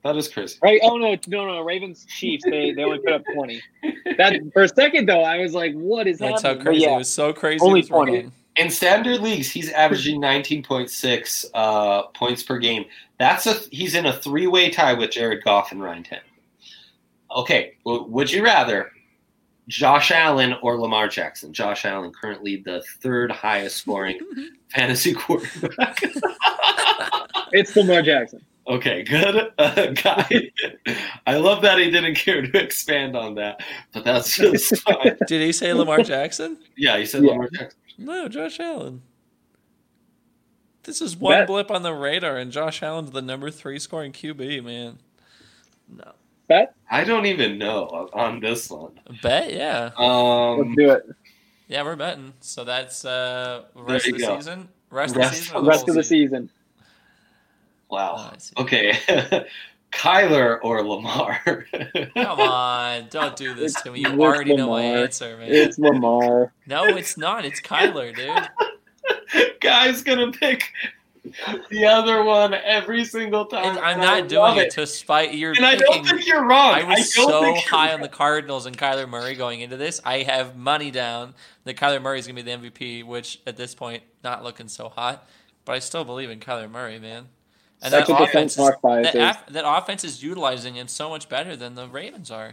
That is crazy. Right? Oh no, no, no. Ravens Chiefs. They they only put up twenty. That for a second though, I was like, "What is That's happening?" how crazy. Yeah, it was so crazy. only it was twenty. wrong. In standard leagues, he's averaging nineteen point six uh, points per game. That's a he's in a three-way tie with Jared Goff and Ryan Tannehill. Okay, well, would you rather Josh Allen or Lamar Jackson? Josh Allen currently the third highest scoring fantasy quarterback. It's Lamar Jackson. Okay, good uh, guy. I love that he didn't care to expand on that, but that's just fine. Did he say Lamar Jackson? Yeah, he said Yeah. Lamar Jackson. No, Josh Allen. This is one Bet. blip on the radar, and Josh Allen's the number three scoring Q B, man. No. Bet. I don't even know on this one. Bet, yeah. Um, Let's do it. Yeah, we're betting. So that's uh, rest There of you the go. season? Rest, Rest- of the season? or Rest whole of the season. Wow. Oh, I see. Okay. Kyler or Lamar? Come on, don't do this to me. You It's already know my Lamar. answer, man. It's Lamar. No, it's not. It's Kyler, dude. Guy's gonna pick the other one every single time. And I'm and I not doing love it to spite your And I picking. don't think you're wrong. I was don't so think you're high on the wrong. Cardinals and Kyler Murray going into this. I have money down that Kyler Murray is going to be the M V P, which at this point, not looking so hot. But I still believe in Kyler Murray, man. And Such that a offense, defense is, bias that, is. af- that offense is utilizing him so much better than the Ravens are.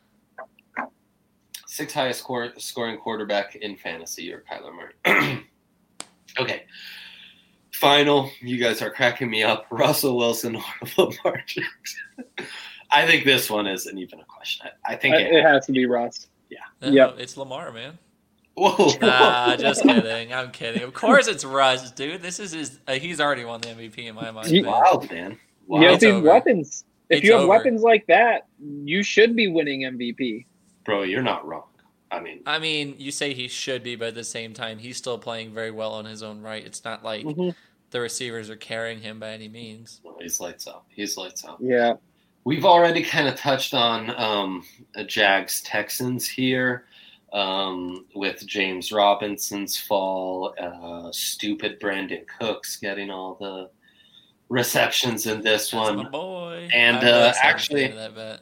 Sixth highest score, scoring quarterback in fantasy or Kyler Murray. Okay. Final. You guys are cracking me up. Russell Wilson or Lamar Jackson? I think this one isn't even a question. I, I think Uh, it, It has to be Russ. No, Yep. It's Lamar, man. Whoa. Nah, just kidding. I'm kidding. Of course it's Russ, dude. This is his. Uh, he's already won the M V P in my mind. He- man. Wow, man. Wow. You have It's these over. weapons. If It's you have over. weapons like that, you should be winning M V P. Bro, you're not wrong. I mean, I mean, you say he should be, but at the same time, he's still playing very well on his own right. It's not like Mhm. the receivers are carrying him by any means. he's lights out. He's lights out. Yeah. We've already kind of touched on um, Jags Texans here um, with James Robinson's fall, uh, stupid Brandon Cooks getting all the receptions in this That's one. my boy. And, I'm uh, not a fan actually- of that bet.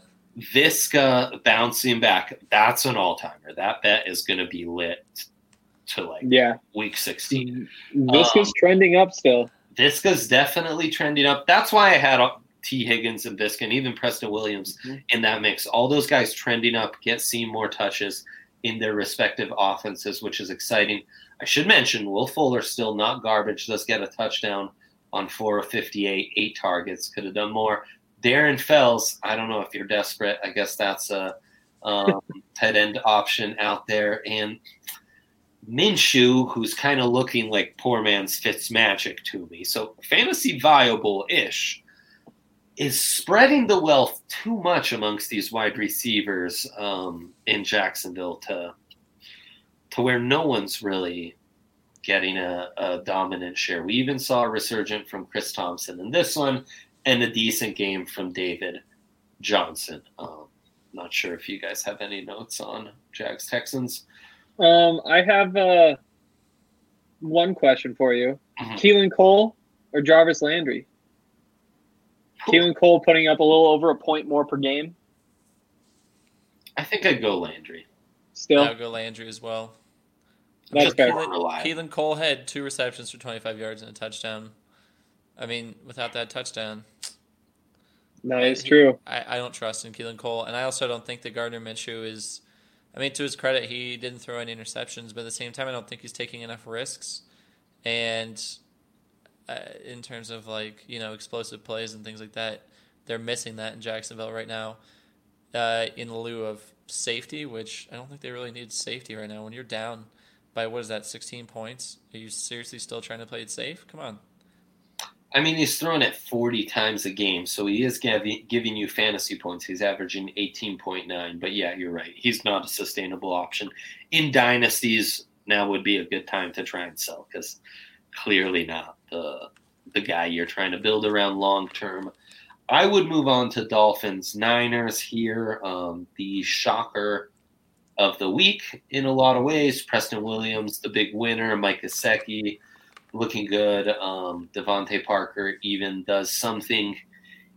Visca bouncing back. That's an all-timer. That bet is going to be lit to like Yeah. week sixteen. This Um, is trending up still. Visca's definitely trending up. That's why I had T. Higgins and Visca and even Preston Williams Mhm. in that mix. All those guys trending up, get seeing more touches in their respective offenses, which is exciting. I should mention Will Fuller still not garbage. Does get a touchdown on four of fifty-eight, eight targets. Could have done more. Darren Fells, I don't know if you're desperate. I guess that's a um, tight end option out there. And Minshew, who's kind of looking like poor man's Fitzmagic to me. So fantasy viable-ish, is spreading the wealth too much amongst these wide receivers um, in Jacksonville to to where no one's really getting a, a dominant share. We even saw a resurgent from Chris Thompson in this one and a decent game from David Johnson. Um, not sure if you guys have any notes on Jags Texans. Um, I have uh, one question for you. Mhm. Keelan Cole or Jarvis Landry? Keelan Cole putting up a little over a point more per game. I think I'd go Landry. Still, I'll go Landry as well. That's Just fair. more reliable. Keelan Cole had two receptions for twenty-five yards and a touchdown. I mean, without that touchdown, that is he- true. I, I don't trust in Keelan Cole. And I also don't think that Gardner Minshew is – I mean, to his credit, he didn't throw any interceptions. But at the same time, I don't think he's taking enough risks. And uh, in terms of, like, you know, explosive plays and things like that, they're missing that in Jacksonville right now uh, in lieu of safety, which I don't think they really need safety right now. When you're down by, what is that, sixteen points, are you seriously still trying to play it safe? Come on. I mean, he's throwing it forty times a game, so he is giving, giving you fantasy points. He's averaging eighteen point nine, but yeah, you're right. He's not a sustainable option. In dynasties, now would be a good time to try and sell because clearly not the the guy you're trying to build around long term. I would move on to Dolphins Niners here. Um, the shocker of the week in a lot of ways. Preston Williams, the big winner. Mike Gesicki looking good. Um, Devontae Parker even does something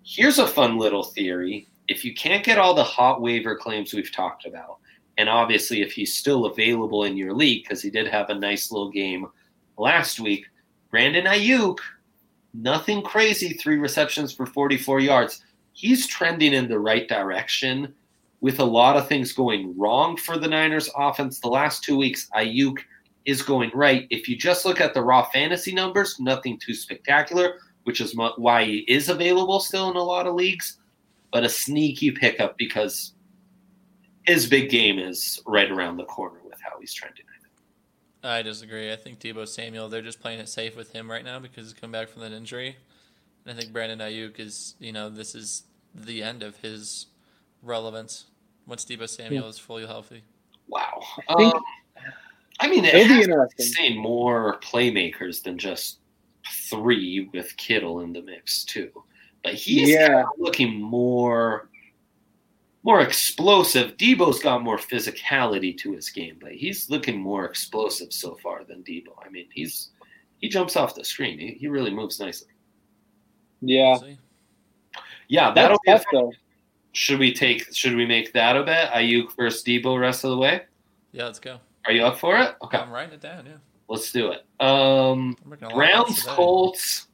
Here's a fun little theory. If you can't get all the hot waiver claims we've talked about, and obviously if he's still available in your league, because he did have a nice little game last week, Brandon Ayuk, nothing crazy, three receptions for forty-four yards. He's trending in the right direction with a lot of things going wrong for the Niners offense. The last two weeks, Ayuk is going right. If you just look at the raw fantasy numbers, nothing too spectacular, which is why he is available still in a lot of leagues, but a sneaky pickup because his big game is right around the corner with how he's trending. I disagree. I think Deebo Samuel, they're just playing it safe with him right now because he's come back from that injury. And I think Brandon Ayuk is, you know, this is the end of his relevance once Deebo Samuel yeah. is fully healthy. Wow. I, think, um, I mean, it has to be saying more playmakers than just three with Kittle in the mix too. But he's yeah. kind of looking more more explosive. Debo's got more physicality to his game, but he's looking more explosive so far than Deebo. I mean, he's he jumps off the screen. He, he really moves nicely. Yeah. Yeah, that'll be tough. Should we take should we make that a bet? Ayuk versus Deebo rest of the way? Yeah, let's go. Are you up for it? Okay. I'm writing it down, yeah. Let's do it. Um, Browns, Colts.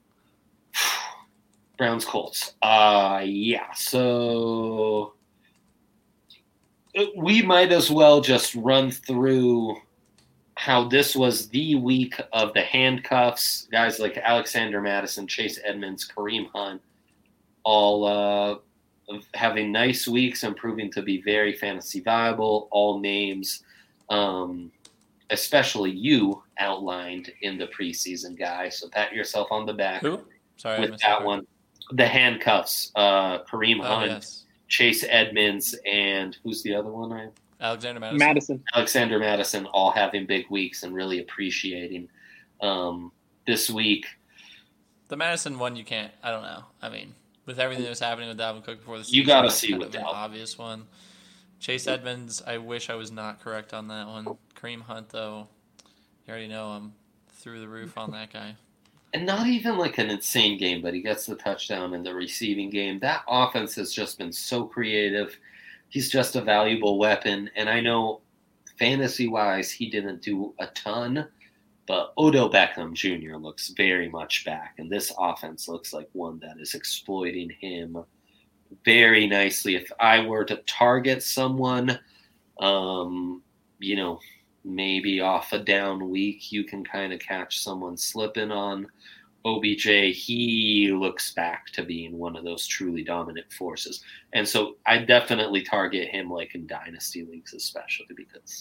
Browns, Colts. Uh, yeah, so we might as well just run through how this was the week of the handcuffs. Guys like Alexander Mattison, Chase Edmonds, Kareem Hunt, all uh, having nice weeks and proving to be very fantasy viable. All names um, – especially you outlined in the preseason, guy. So pat yourself on the back. Who? Sorry, with that one. The handcuffs, uh, Kareem Hunt, oh, yes. Chase Edmonds, and who's the other one? I Alexander Mattison. Madison. Alexander Mattison, all having big weeks and really appreciating um, this week. The Madison one, you can't. I don't know. I mean, with everything that was happening with Dalvin Cook before the season, you got to see with an obvious one. Chase Edmonds, I wish I was not correct on that one. Kareem Hunt, though, you already know I'm through the roof on that guy. And not even like an insane game, but he gets the touchdown in the receiving game. That offense has just been so creative. He's just a valuable weapon. And I know fantasy-wise he didn't do a ton, but Odell Beckham Junior looks very much back. And this offense looks like one that is exploiting him very nicely. If I were to target someone, um, you know, maybe off a down week, you can kind of catch someone slipping on O B J. He looks back to being one of those truly dominant forces. And so I definitely target him like in dynasty leagues, especially because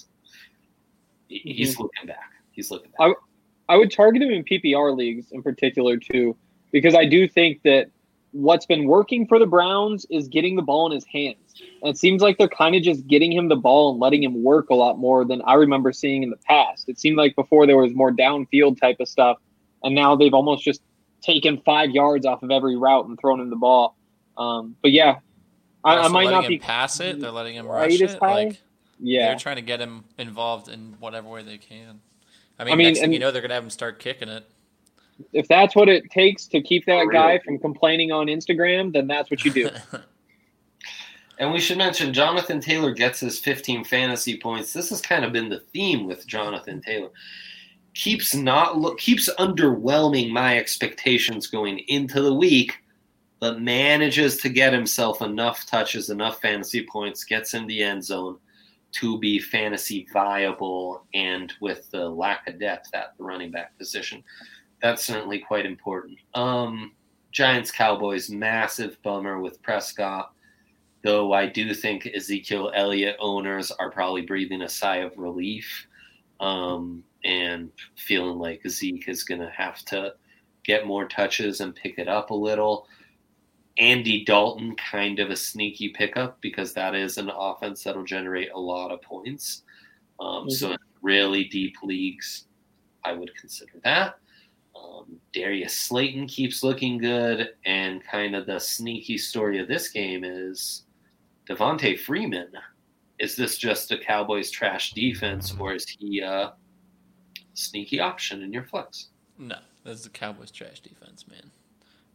he's mm-hmm. looking back. He's looking back. I, I would target him in P P R leagues in particular too, because I do think that what's been working for the Browns is getting the ball in his hands. And it seems like they're kind of just getting him the ball and letting him work a lot more than I remember seeing in the past. It seemed like before there was more downfield type of stuff, and now they've almost just taken five yards off of every route and thrown him the ball. Um, but yeah, I, I might not him be pass it. They're letting him rush it. Like, yeah, they're trying to get him involved in whatever way they can. I mean, I mean next thing you know, they're going to have him start kicking it. If that's what it takes to keep that guy from complaining on Instagram, then that's what you do. And we should mention Jonathan Taylor gets his fifteen fantasy points. This has kind of been the theme with Jonathan Taylor. Keeps not look keeps underwhelming my expectations going into the week, but manages to get himself enough touches, enough fantasy points, gets in the end zone to be fantasy viable, and with the lack of depth at the running back position, that's certainly quite important. Um, Giants Cowboys, massive bummer with Prescott. Though I do think Ezekiel Elliott owners are probably breathing a sigh of relief um, and feeling like Zeke is going to have to get more touches and pick it up a little. Andy Dalton, kind of a sneaky pickup because that is an offense that will generate a lot of points. Um, mm-hmm. So in really deep leagues, I would consider that. Um, Darius Slayton keeps looking good, and kind of the sneaky story of this game is Devontae Freeman. Is this just a Cowboys trash defense, or is he a sneaky option in your flex? No, that's the Cowboys trash defense, man.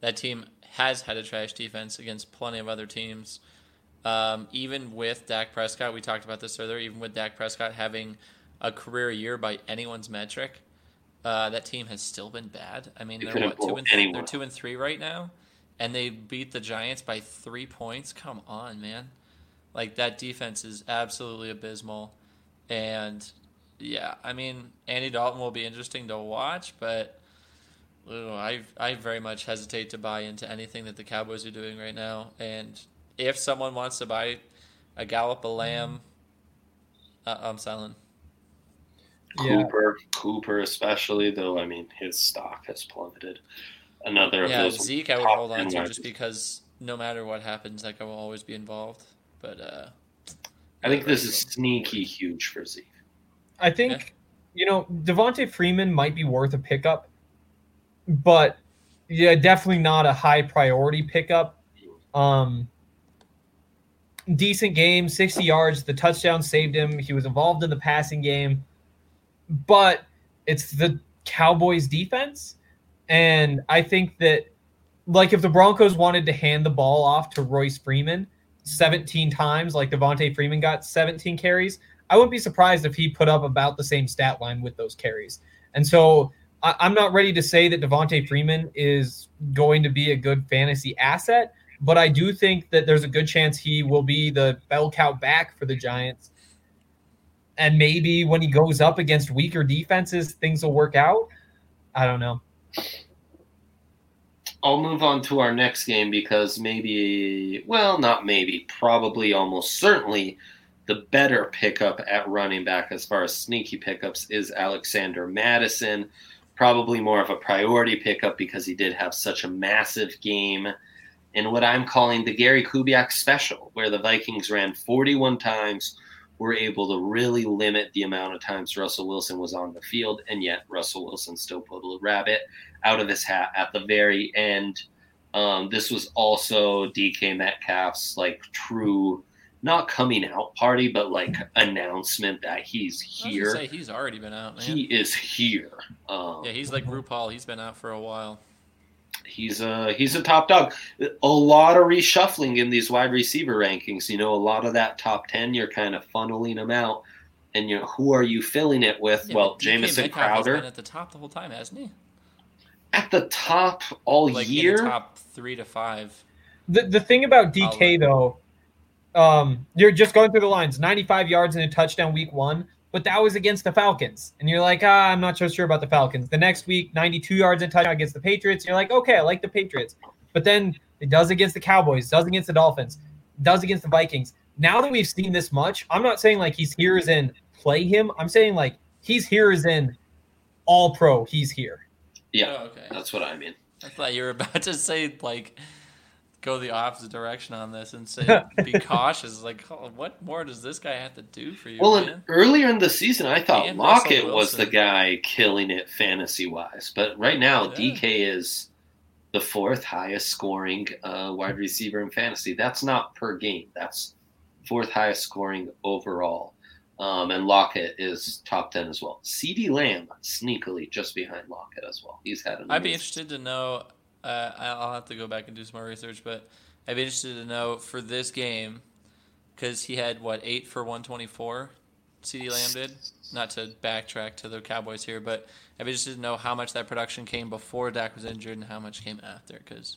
that team has had a trash defense against plenty of other teams. Um, even with Dak Prescott, we talked about this earlier, even with Dak Prescott having a career year by anyone's metric, uh, that team has still been bad. I mean, they're what, two and th- they're two and three right now, and they beat the Giants by three points. Come on, man! Like, that defense is absolutely abysmal, and yeah, I mean, Andy Dalton will be interesting to watch, but ugh, I I very much hesitate to buy into anything that the Cowboys are doing right now, and if someone wants to buy a Gallup, a Lamb, uh, I'm selling. Cooper, yeah. Cooper especially, though, I mean, his stock has plummeted. Another of yeah, those. Zeke I would hold on to just because no matter what happens, like, I will always be involved. But uh, I think this is sneaky huge for Zeke. I think, yeah. you know, Devontae Freeman might be worth a pickup, but yeah, definitely not a high priority pickup. Um, decent game, sixty yards. The touchdown saved him. He was involved in the passing game. But it's the Cowboys defense. And I think that, like, if the Broncos wanted to hand the ball off to Royce Freeman seventeen times, like Devontae Freeman got seventeen carries, I wouldn't be surprised if he put up about the same stat line with those carries. And so I, I'm not ready to say that Devontae Freeman is going to be a good fantasy asset, but I do think that there's a good chance he will be the bell cow back for the Giants. And maybe when he goes up against weaker defenses, things will work out. I don't know. I'll move on to our next game because maybe, well, not maybe, probably almost certainly the better pickup at running back as far as sneaky pickups is Alexander Mattison. Probably more of a priority pickup because he did have such a massive game in what I'm calling the Gary Kubiak special, where the Vikings ran forty-one times, were able to really limit the amount of times Russell Wilson was on the field, and yet Russell Wilson still pulled a rabbit out of his hat at the very end. Um, this was also D K Metcalf's like true, not coming out party, but like announcement that he's here. I was gonna say he's already been out, man. He is here. Um, yeah, he's like RuPaul. He's been out for a while. He's a he's a top dog. A lot of reshuffling in these wide receiver rankings. You know, a lot of that top ten, you're kind of funneling them out, and you know who are you filling it with? Yeah, well, Jamison Crowder has been at the top the whole time, hasn't he? At the top all like year, in the top three to five. The the thing about D K though, um, you're just going through the lines. ninety-five yards and a touchdown week one. But that was against the Falcons. And you're like, ah, I'm not so sure about the Falcons. The next week, ninety-two yards and touchdown against the Patriots. You're like, okay, I like the Patriots. But then it does against the Cowboys, does against the Dolphins, does against the Vikings. Now that we've seen this much, I'm not saying like he's here as in play him. I'm saying like he's here as in all pro. He's here. Yeah, oh, okay. That's what I mean. I thought you were about to say like go the opposite direction on this and say be cautious. Like, oh, what more does this guy have to do for you? Well, man? earlier in the season, I thought and Lockett was the guy killing it fantasy wise, but right now yeah. D K is the fourth highest scoring uh, wide receiver in fantasy. That's not per game. That's fourth highest scoring overall. Um, and Lockett is top ten as well. CeeDee Lamb sneakily just behind Lockett as well. He's had an I'd be interested to know. Uh, I'll have to go back and do some more research, but I'd be interested to know for this game, because he had, what, eight for one twenty-four, CeeDee Lamb did? Not to backtrack to the Cowboys here, but I'd be interested to know how much that production came before Dak was injured and how much came after, because...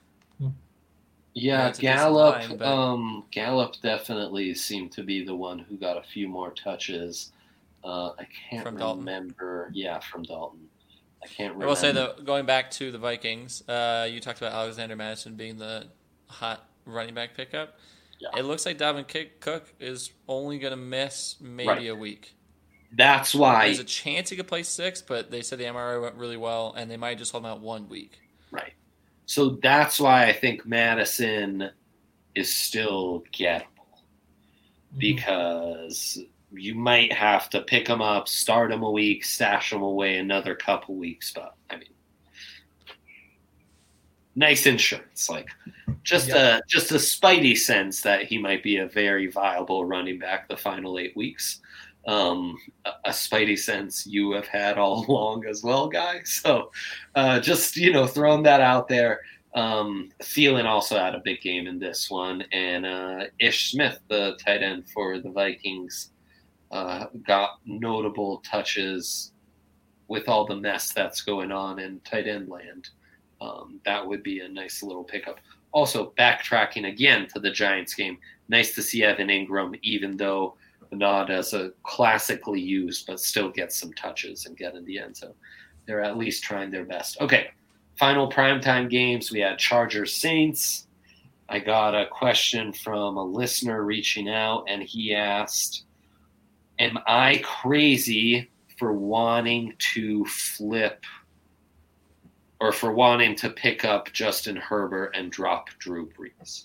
Yeah, Gallup, line, but... um, Gallup definitely seemed to be the one who got a few more touches. Uh, I can't from remember. Dalton. Yeah, from Dalton. I can't remember. I will say, though, going back to the Vikings, uh, you talked about Alexander Mattison being the hot running back pickup. Yeah. It looks like Dalvin Cook is only going to miss maybe right. a week. That's why. There's a chance he could play six, but they said the M R I went really well, and they might just hold him out one week. Right. So that's why I think Madison is still gettable. Mm-hmm. Because you might have to pick him up, start him a week, stash him away another couple weeks. But, I mean, nice insurance. Like, just yeah. a just a spidey sense that he might be a very viable running back the final eight weeks. Um, a, a spidey sense you have had all along as well, guys. So uh, just, you know, throwing that out there. Um, Thielen also had a big game in this one, and uh, Ish Smith, the tight end for the Vikings, uh, got notable touches with all the mess that's going on in tight end land. Um, that would be a nice little pickup. Also, backtracking again to the Giants game, nice to see Evan Ingram, even though not as a classically used, but still get some touches and get in the end zone. They're at least trying their best. Okay, final primetime games. We had Chargers Saints. I got a question from a listener reaching out, and he asked, am I crazy for wanting to flip or for wanting to pick up Justin Herbert and drop Drew Brees?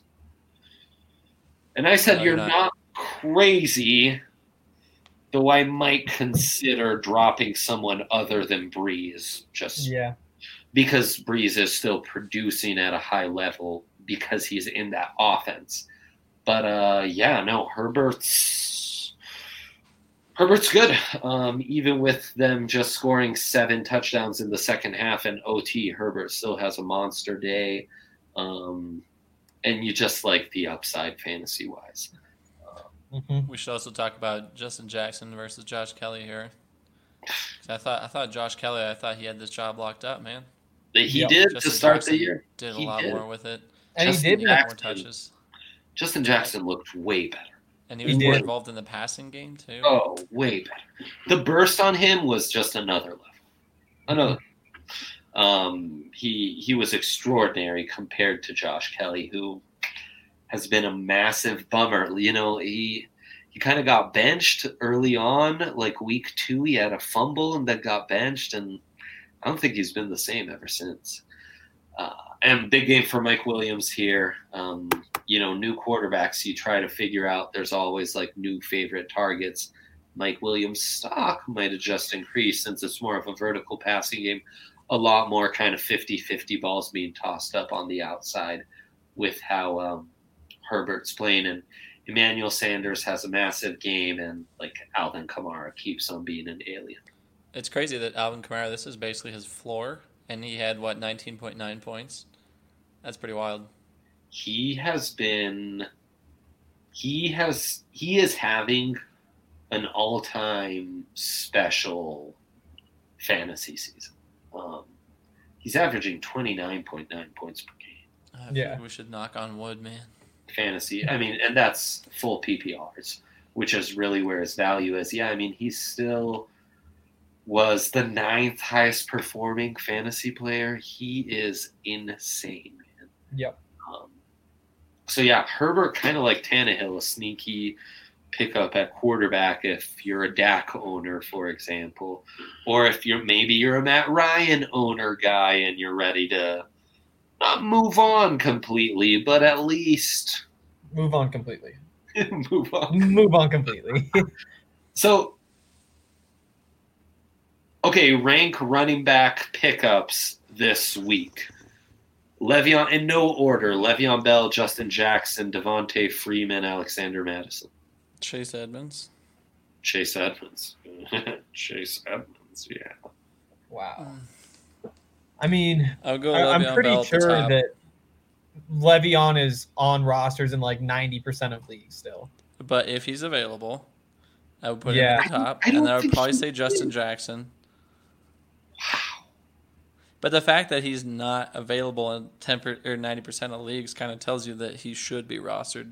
And I said, no, you're, you're not. not crazy, though I might consider dropping someone other than Brees, just yeah, because Brees is still producing at a high level because he's in that offense. But uh, yeah, no, Herbert's Herbert's good. Um, even with them just scoring seven touchdowns in the second half and O T, Herbert still has a monster day. Um, and you just like the upside fantasy wise. Mm-hmm. We should also talk about Justin Jackson versus Josh Kelly here. I thought I thought Josh Kelly, I thought he had this job locked up, man. He yep. did Justin to start Jackson the year. Did a he lot did. more with it. And Justin he did Jackson, more touches. Justin Jackson looked way better. And he was he more did. involved in the passing game too. Oh, way better. The burst on him was just another level. Another. Um, he he was extraordinary compared to Josh Kelly, who has been a massive bummer. You know, he he kind of got benched early on, like week two. He had a fumble and then got benched, and I don't think he's been the same ever since. Uh, and big game for Mike Williams here. Um, you know, new quarterbacks, you try to figure out there's always like new favorite targets. Mike Williams' stock might have just increased since it's more of a vertical passing game. A lot more kind of fifty-fifty balls being tossed up on the outside with how um, Herbert's playing. And Emmanuel Sanders has a massive game, and like Alvin Kamara keeps on being an alien. It's crazy that Alvin Kamara, this is basically his floor, and he had, what, nineteen point nine points? That's pretty wild. He has been – he has – he is having an all-time special fantasy season. Um, he's averaging twenty-nine point nine points per game. I yeah. think we should knock on wood, man. Fantasy. I mean, and that's full P P Rs, which is really where his value is. Yeah, I mean, he still was the ninth highest performing fantasy player. He is insane, man. Yep. Um, so, yeah, Herbert kind of like Tannehill, a sneaky pickup at quarterback if you're a Dak owner, for example, or if you're maybe you're a Matt Ryan owner guy and you're ready to not move on completely, but at least move on completely. move on. Move on completely. So, okay, rank running back pickups this week. Le'Veon, in no order, Le'Veon Bell, Justin Jackson, Devontae Freeman, Alexander Madison. Chase Edmonds. Chase Edmonds. Chase Edmonds, yeah. Wow. I mean, I'll go I, I'm pretty Bell sure that Le'Veon is on rosters in like ninety percent of leagues still. But if he's available, I would put yeah. him at the top. I, I and I would probably he, say Justin Jackson. Wow. But the fact that he's not available in ten per, or ninety percent of leagues kind of tells you that he should be rostered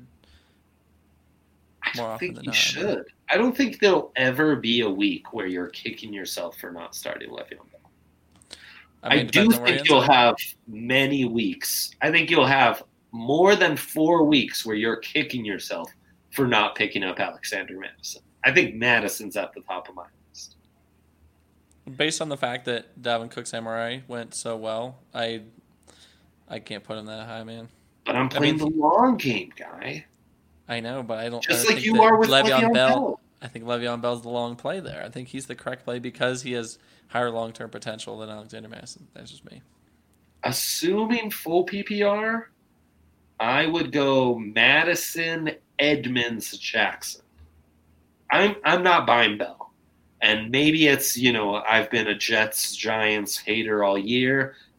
more I often think than you not. should. I don't think there'll ever be a week where you're kicking yourself for not starting Le'Veon Bell. I, mean, I do think you'll have many weeks. I think you'll have more than four weeks where you're kicking yourself for not picking up Alexander Madison. I think Madison's at the top of my list. Based on the fact that Dalvin Cook's M R I went so well, I I can't put him that high, man. But I'm playing I mean, the long game, guy. I know, but I don't. Just I don't like think you are with Le'Veon, Le'Veon Bell, Bell. I think Le'Veon Bell's the long play there. I think he's the correct play because he has higher long-term potential than Alexander Madison. That's just me. Assuming full P P R, I would go Madison, Edmonds, Jackson. I'm I'm not buying Bell. And maybe it's, you know, I've been a Jets, Giants hater all year.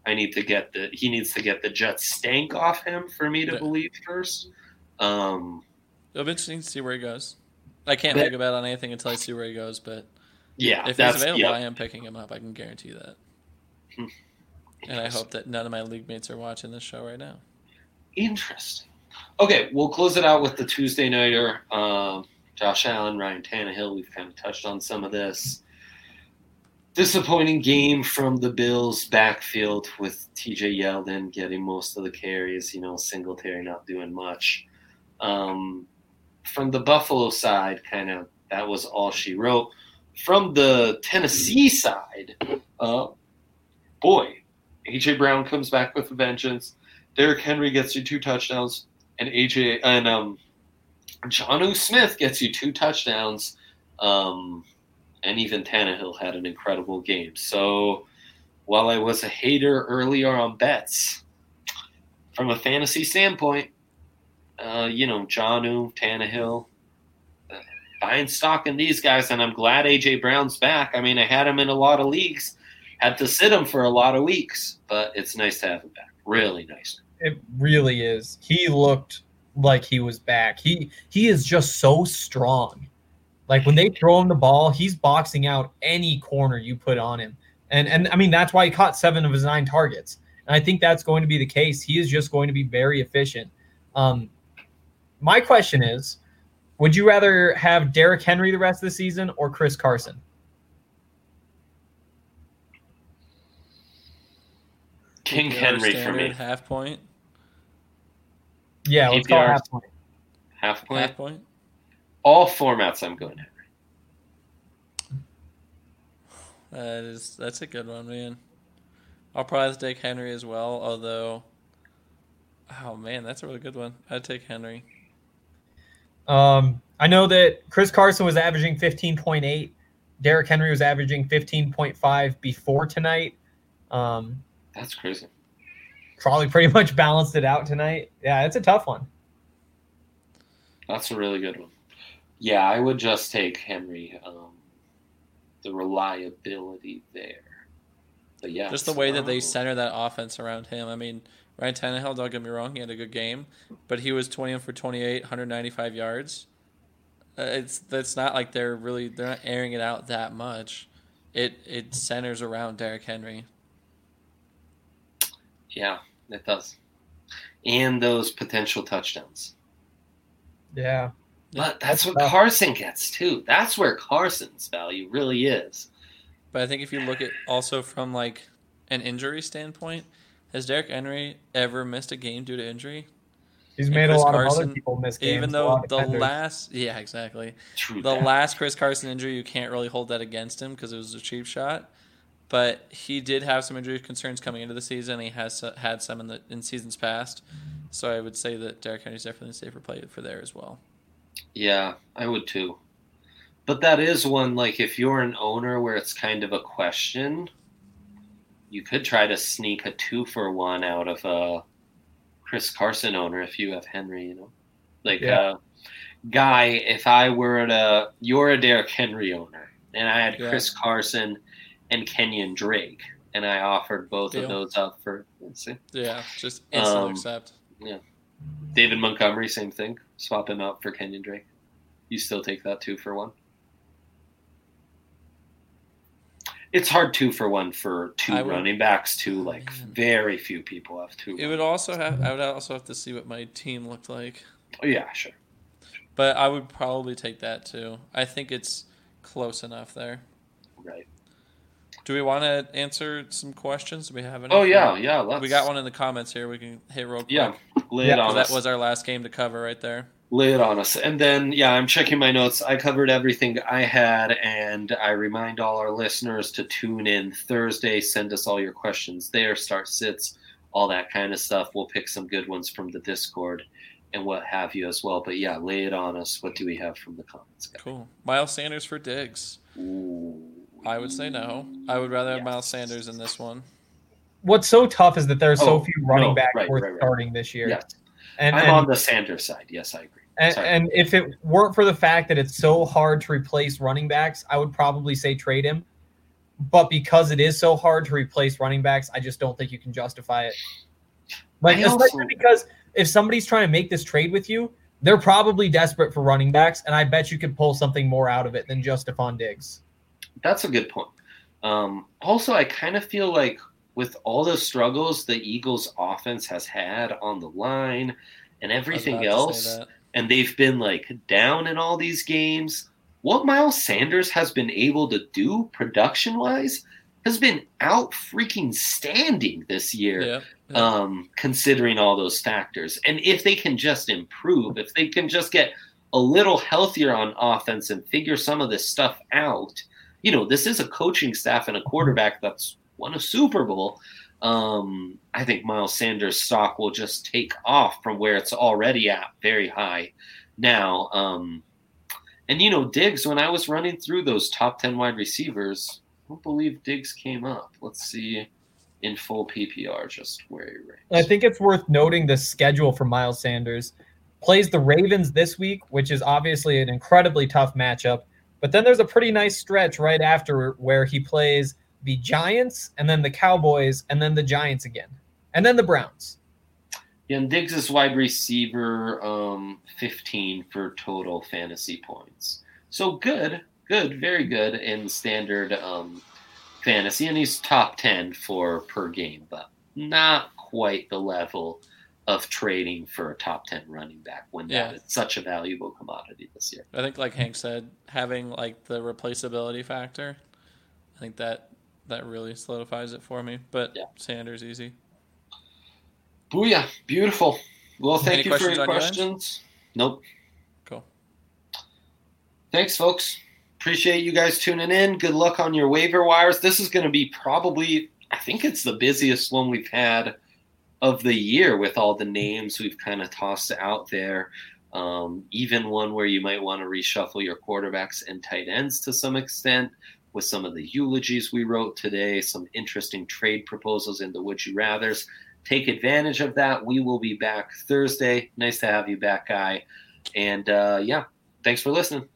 I need to get the he needs to get the Jets stank off him for me to yeah. believe first. Um, It'll be interesting to see where he goes. I can't but, think about on anything until I see where he goes, but yeah, if he's available, yeah. I am picking him up. I can guarantee you that. Hmm. And I hope that none of my league mates are watching this show right now. Interesting. Okay, we'll close it out with the Tuesday nighter. Um, Josh Allen, Ryan Tannehill. We've kind of touched on some of this. Disappointing game from the Bills' backfield with T J Yeldon getting most of the carries. You know, Singletary not doing much. Um, from the Buffalo side, kind of that was all she wrote. From the Tennessee side, uh, boy, A J Brown comes back with a vengeance. Derrick Henry gets you two touchdowns, and A J and um, Jonnu Smith gets you two touchdowns. Um, and even Tannehill had an incredible game. So while I was a hater earlier on bets, from a fantasy standpoint, uh, you know, Jonnu, Tannehill, uh, buying stock in these guys, and I'm glad A J Brown's back. I mean, I had him in a lot of leagues, had to sit him for a lot of weeks, but it's nice to have him back. Really nice. It really is. He looked like he was back. He he is just so strong. Like when they throw him the ball, he's boxing out any corner you put on him. And and I mean, that's why he caught seven of his nine targets. And I think that's going to be the case. He is just going to be very efficient. Um, my question is, would you rather have Derrick Henry the rest of the season or Chris Carson? King Henry for me. Half point. Yeah, let's call it half point. Half point. Half point. All formats, I'm going Henry. That is that's a good one, man. I'll probably take Henry as well. Although, oh man, that's a really good one. I'd take Henry. Um, I know that Chris Carson was averaging fifteen point eight. Derrick Henry was averaging fifteen point five before tonight. Um, that's crazy. Probably pretty much balanced it out tonight. Yeah, it's a tough one. That's a really good one. Yeah, I would just take Henry. Um, the reliability there. But yeah, just the way that they center that offense around him. I mean, Ryan Tannehill, don't get me wrong, he had a good game, but he was twenty for twenty-eight, one hundred ninety-five yards. Uh, it's that's not like they're really they're not airing it out that much. It it centers around Derrick Henry. Yeah, it does, and those potential touchdowns. Yeah. But that's what Carson gets, too. That's where Carson's value really is. But I think if you look at also from, like, an injury standpoint, has Derrick Henry ever missed a game due to injury? He's made a lot Carson, of other people miss games. Even though the last – yeah, exactly. True the that. last Chris Carson injury, you can't really hold that against him because it was a cheap shot. But he did have some injury concerns coming into the season. He has had some in the in seasons past. So I would say that Derrick Henry's definitely a safer play for there as well. Yeah, I would too. But that is one, like, if you're an owner where it's kind of a question, you could try to sneak a two for one out of a Chris Carson owner if you have Henry, you know? Like, yeah. uh, Guy, if I were to, you're a Derrick Henry owner, and I had yeah. Chris Carson and Kenyon Drake, and I offered both Deal. of those up for, let's see. Yeah, just instant um, accept. Yeah. David Montgomery, same thing. Swap him out for Kenyon Drake. You still take that two for one? It's hard two for one for two would, running backs too. Like man. very few people have two. It would also have. I would also have to see what my team looked like. Oh yeah, sure. But I would probably take that too. I think it's close enough there. Right. Do we want to answer some questions? Do we have any? Oh yeah, yeah. Let's... We got one in the comments here. We can hit real quick. Yeah, lay it yeah, on that us. was our last game to cover right there. Lay it on us. And then, yeah, I'm checking my notes. I covered everything I had, and I remind all our listeners to tune in Thursday. Send us all your questions there, start sits, all that kind of stuff. We'll pick some good ones from the Discord and what have you as well. But, yeah, lay it on us. What do we have from the comments, guys? Cool. Miles Sanders for Diggs. Ooh. I would say no. I would rather have yes. Miles Sanders in this one. What's so tough is that there's oh, so few running no, backs right, worth right, right. starting this year. Yes. And, I'm and, on the Sanders side. Yes, I agree. And, and if it weren't for the fact that it's so hard to replace running backs, I would probably say trade him. but because it is so hard to replace running backs, I just don't think you can justify it. Like, I also- especially because if somebody's trying to make this trade with you, they're probably desperate for running backs, and I bet you could pull something more out of it than just Stephon Diggs. That's a good point. Um, also, I kind of feel like with all the struggles the Eagles' offense has had on the line and everything else, and they've been like down in all these games, what Miles Sanders has been able to do production-wise has been out freaking standing this year, yeah, yeah. Um, considering all those factors. And if they can just improve, if they can just get a little healthier on offense and figure some of this stuff out, you know, this is a coaching staff and a quarterback that's won a Super Bowl. Um, I think Miles Sanders' stock will just take off from where it's already at, very high now. Um, and, you know, Diggs, when I was running through those top ten wide receivers, I don't believe Diggs came up. Let's see in full P P R just where he ranks. I think it's worth noting the schedule for Miles Sanders. Plays the Ravens this week, which is obviously an incredibly tough matchup. But then there's a pretty nice stretch right after where he plays the Giants and then the Cowboys and then the Giants again. And then the Browns. Yeah, and Diggs is wide receiver um, fifteen for total fantasy points. So good, good, very good in standard um, fantasy. And he's top ten for per game, but not quite the level of trading for a top ten running back when Yeah. that is such a valuable commodity this year. I think, like Hank said, having like the replaceability factor, I think that that really solidifies it for me. But Yeah. Sanders easy. Booyah. Beautiful. Well, thank Any you for questions your on your end? questions. Nope. Cool. Thanks, folks. Appreciate you guys tuning in. Good luck on your waiver wires. This is going to be probably, I think it's the busiest one we've had of the year with all the names we've kind of tossed out there. Um, even one where you might want to reshuffle your quarterbacks and tight ends to some extent with some of the eulogies we wrote today, some interesting trade proposals in the Would You Rathers. Take advantage of that. We will be back Thursday. Nice to have you back, Guy. And uh, yeah, thanks for listening.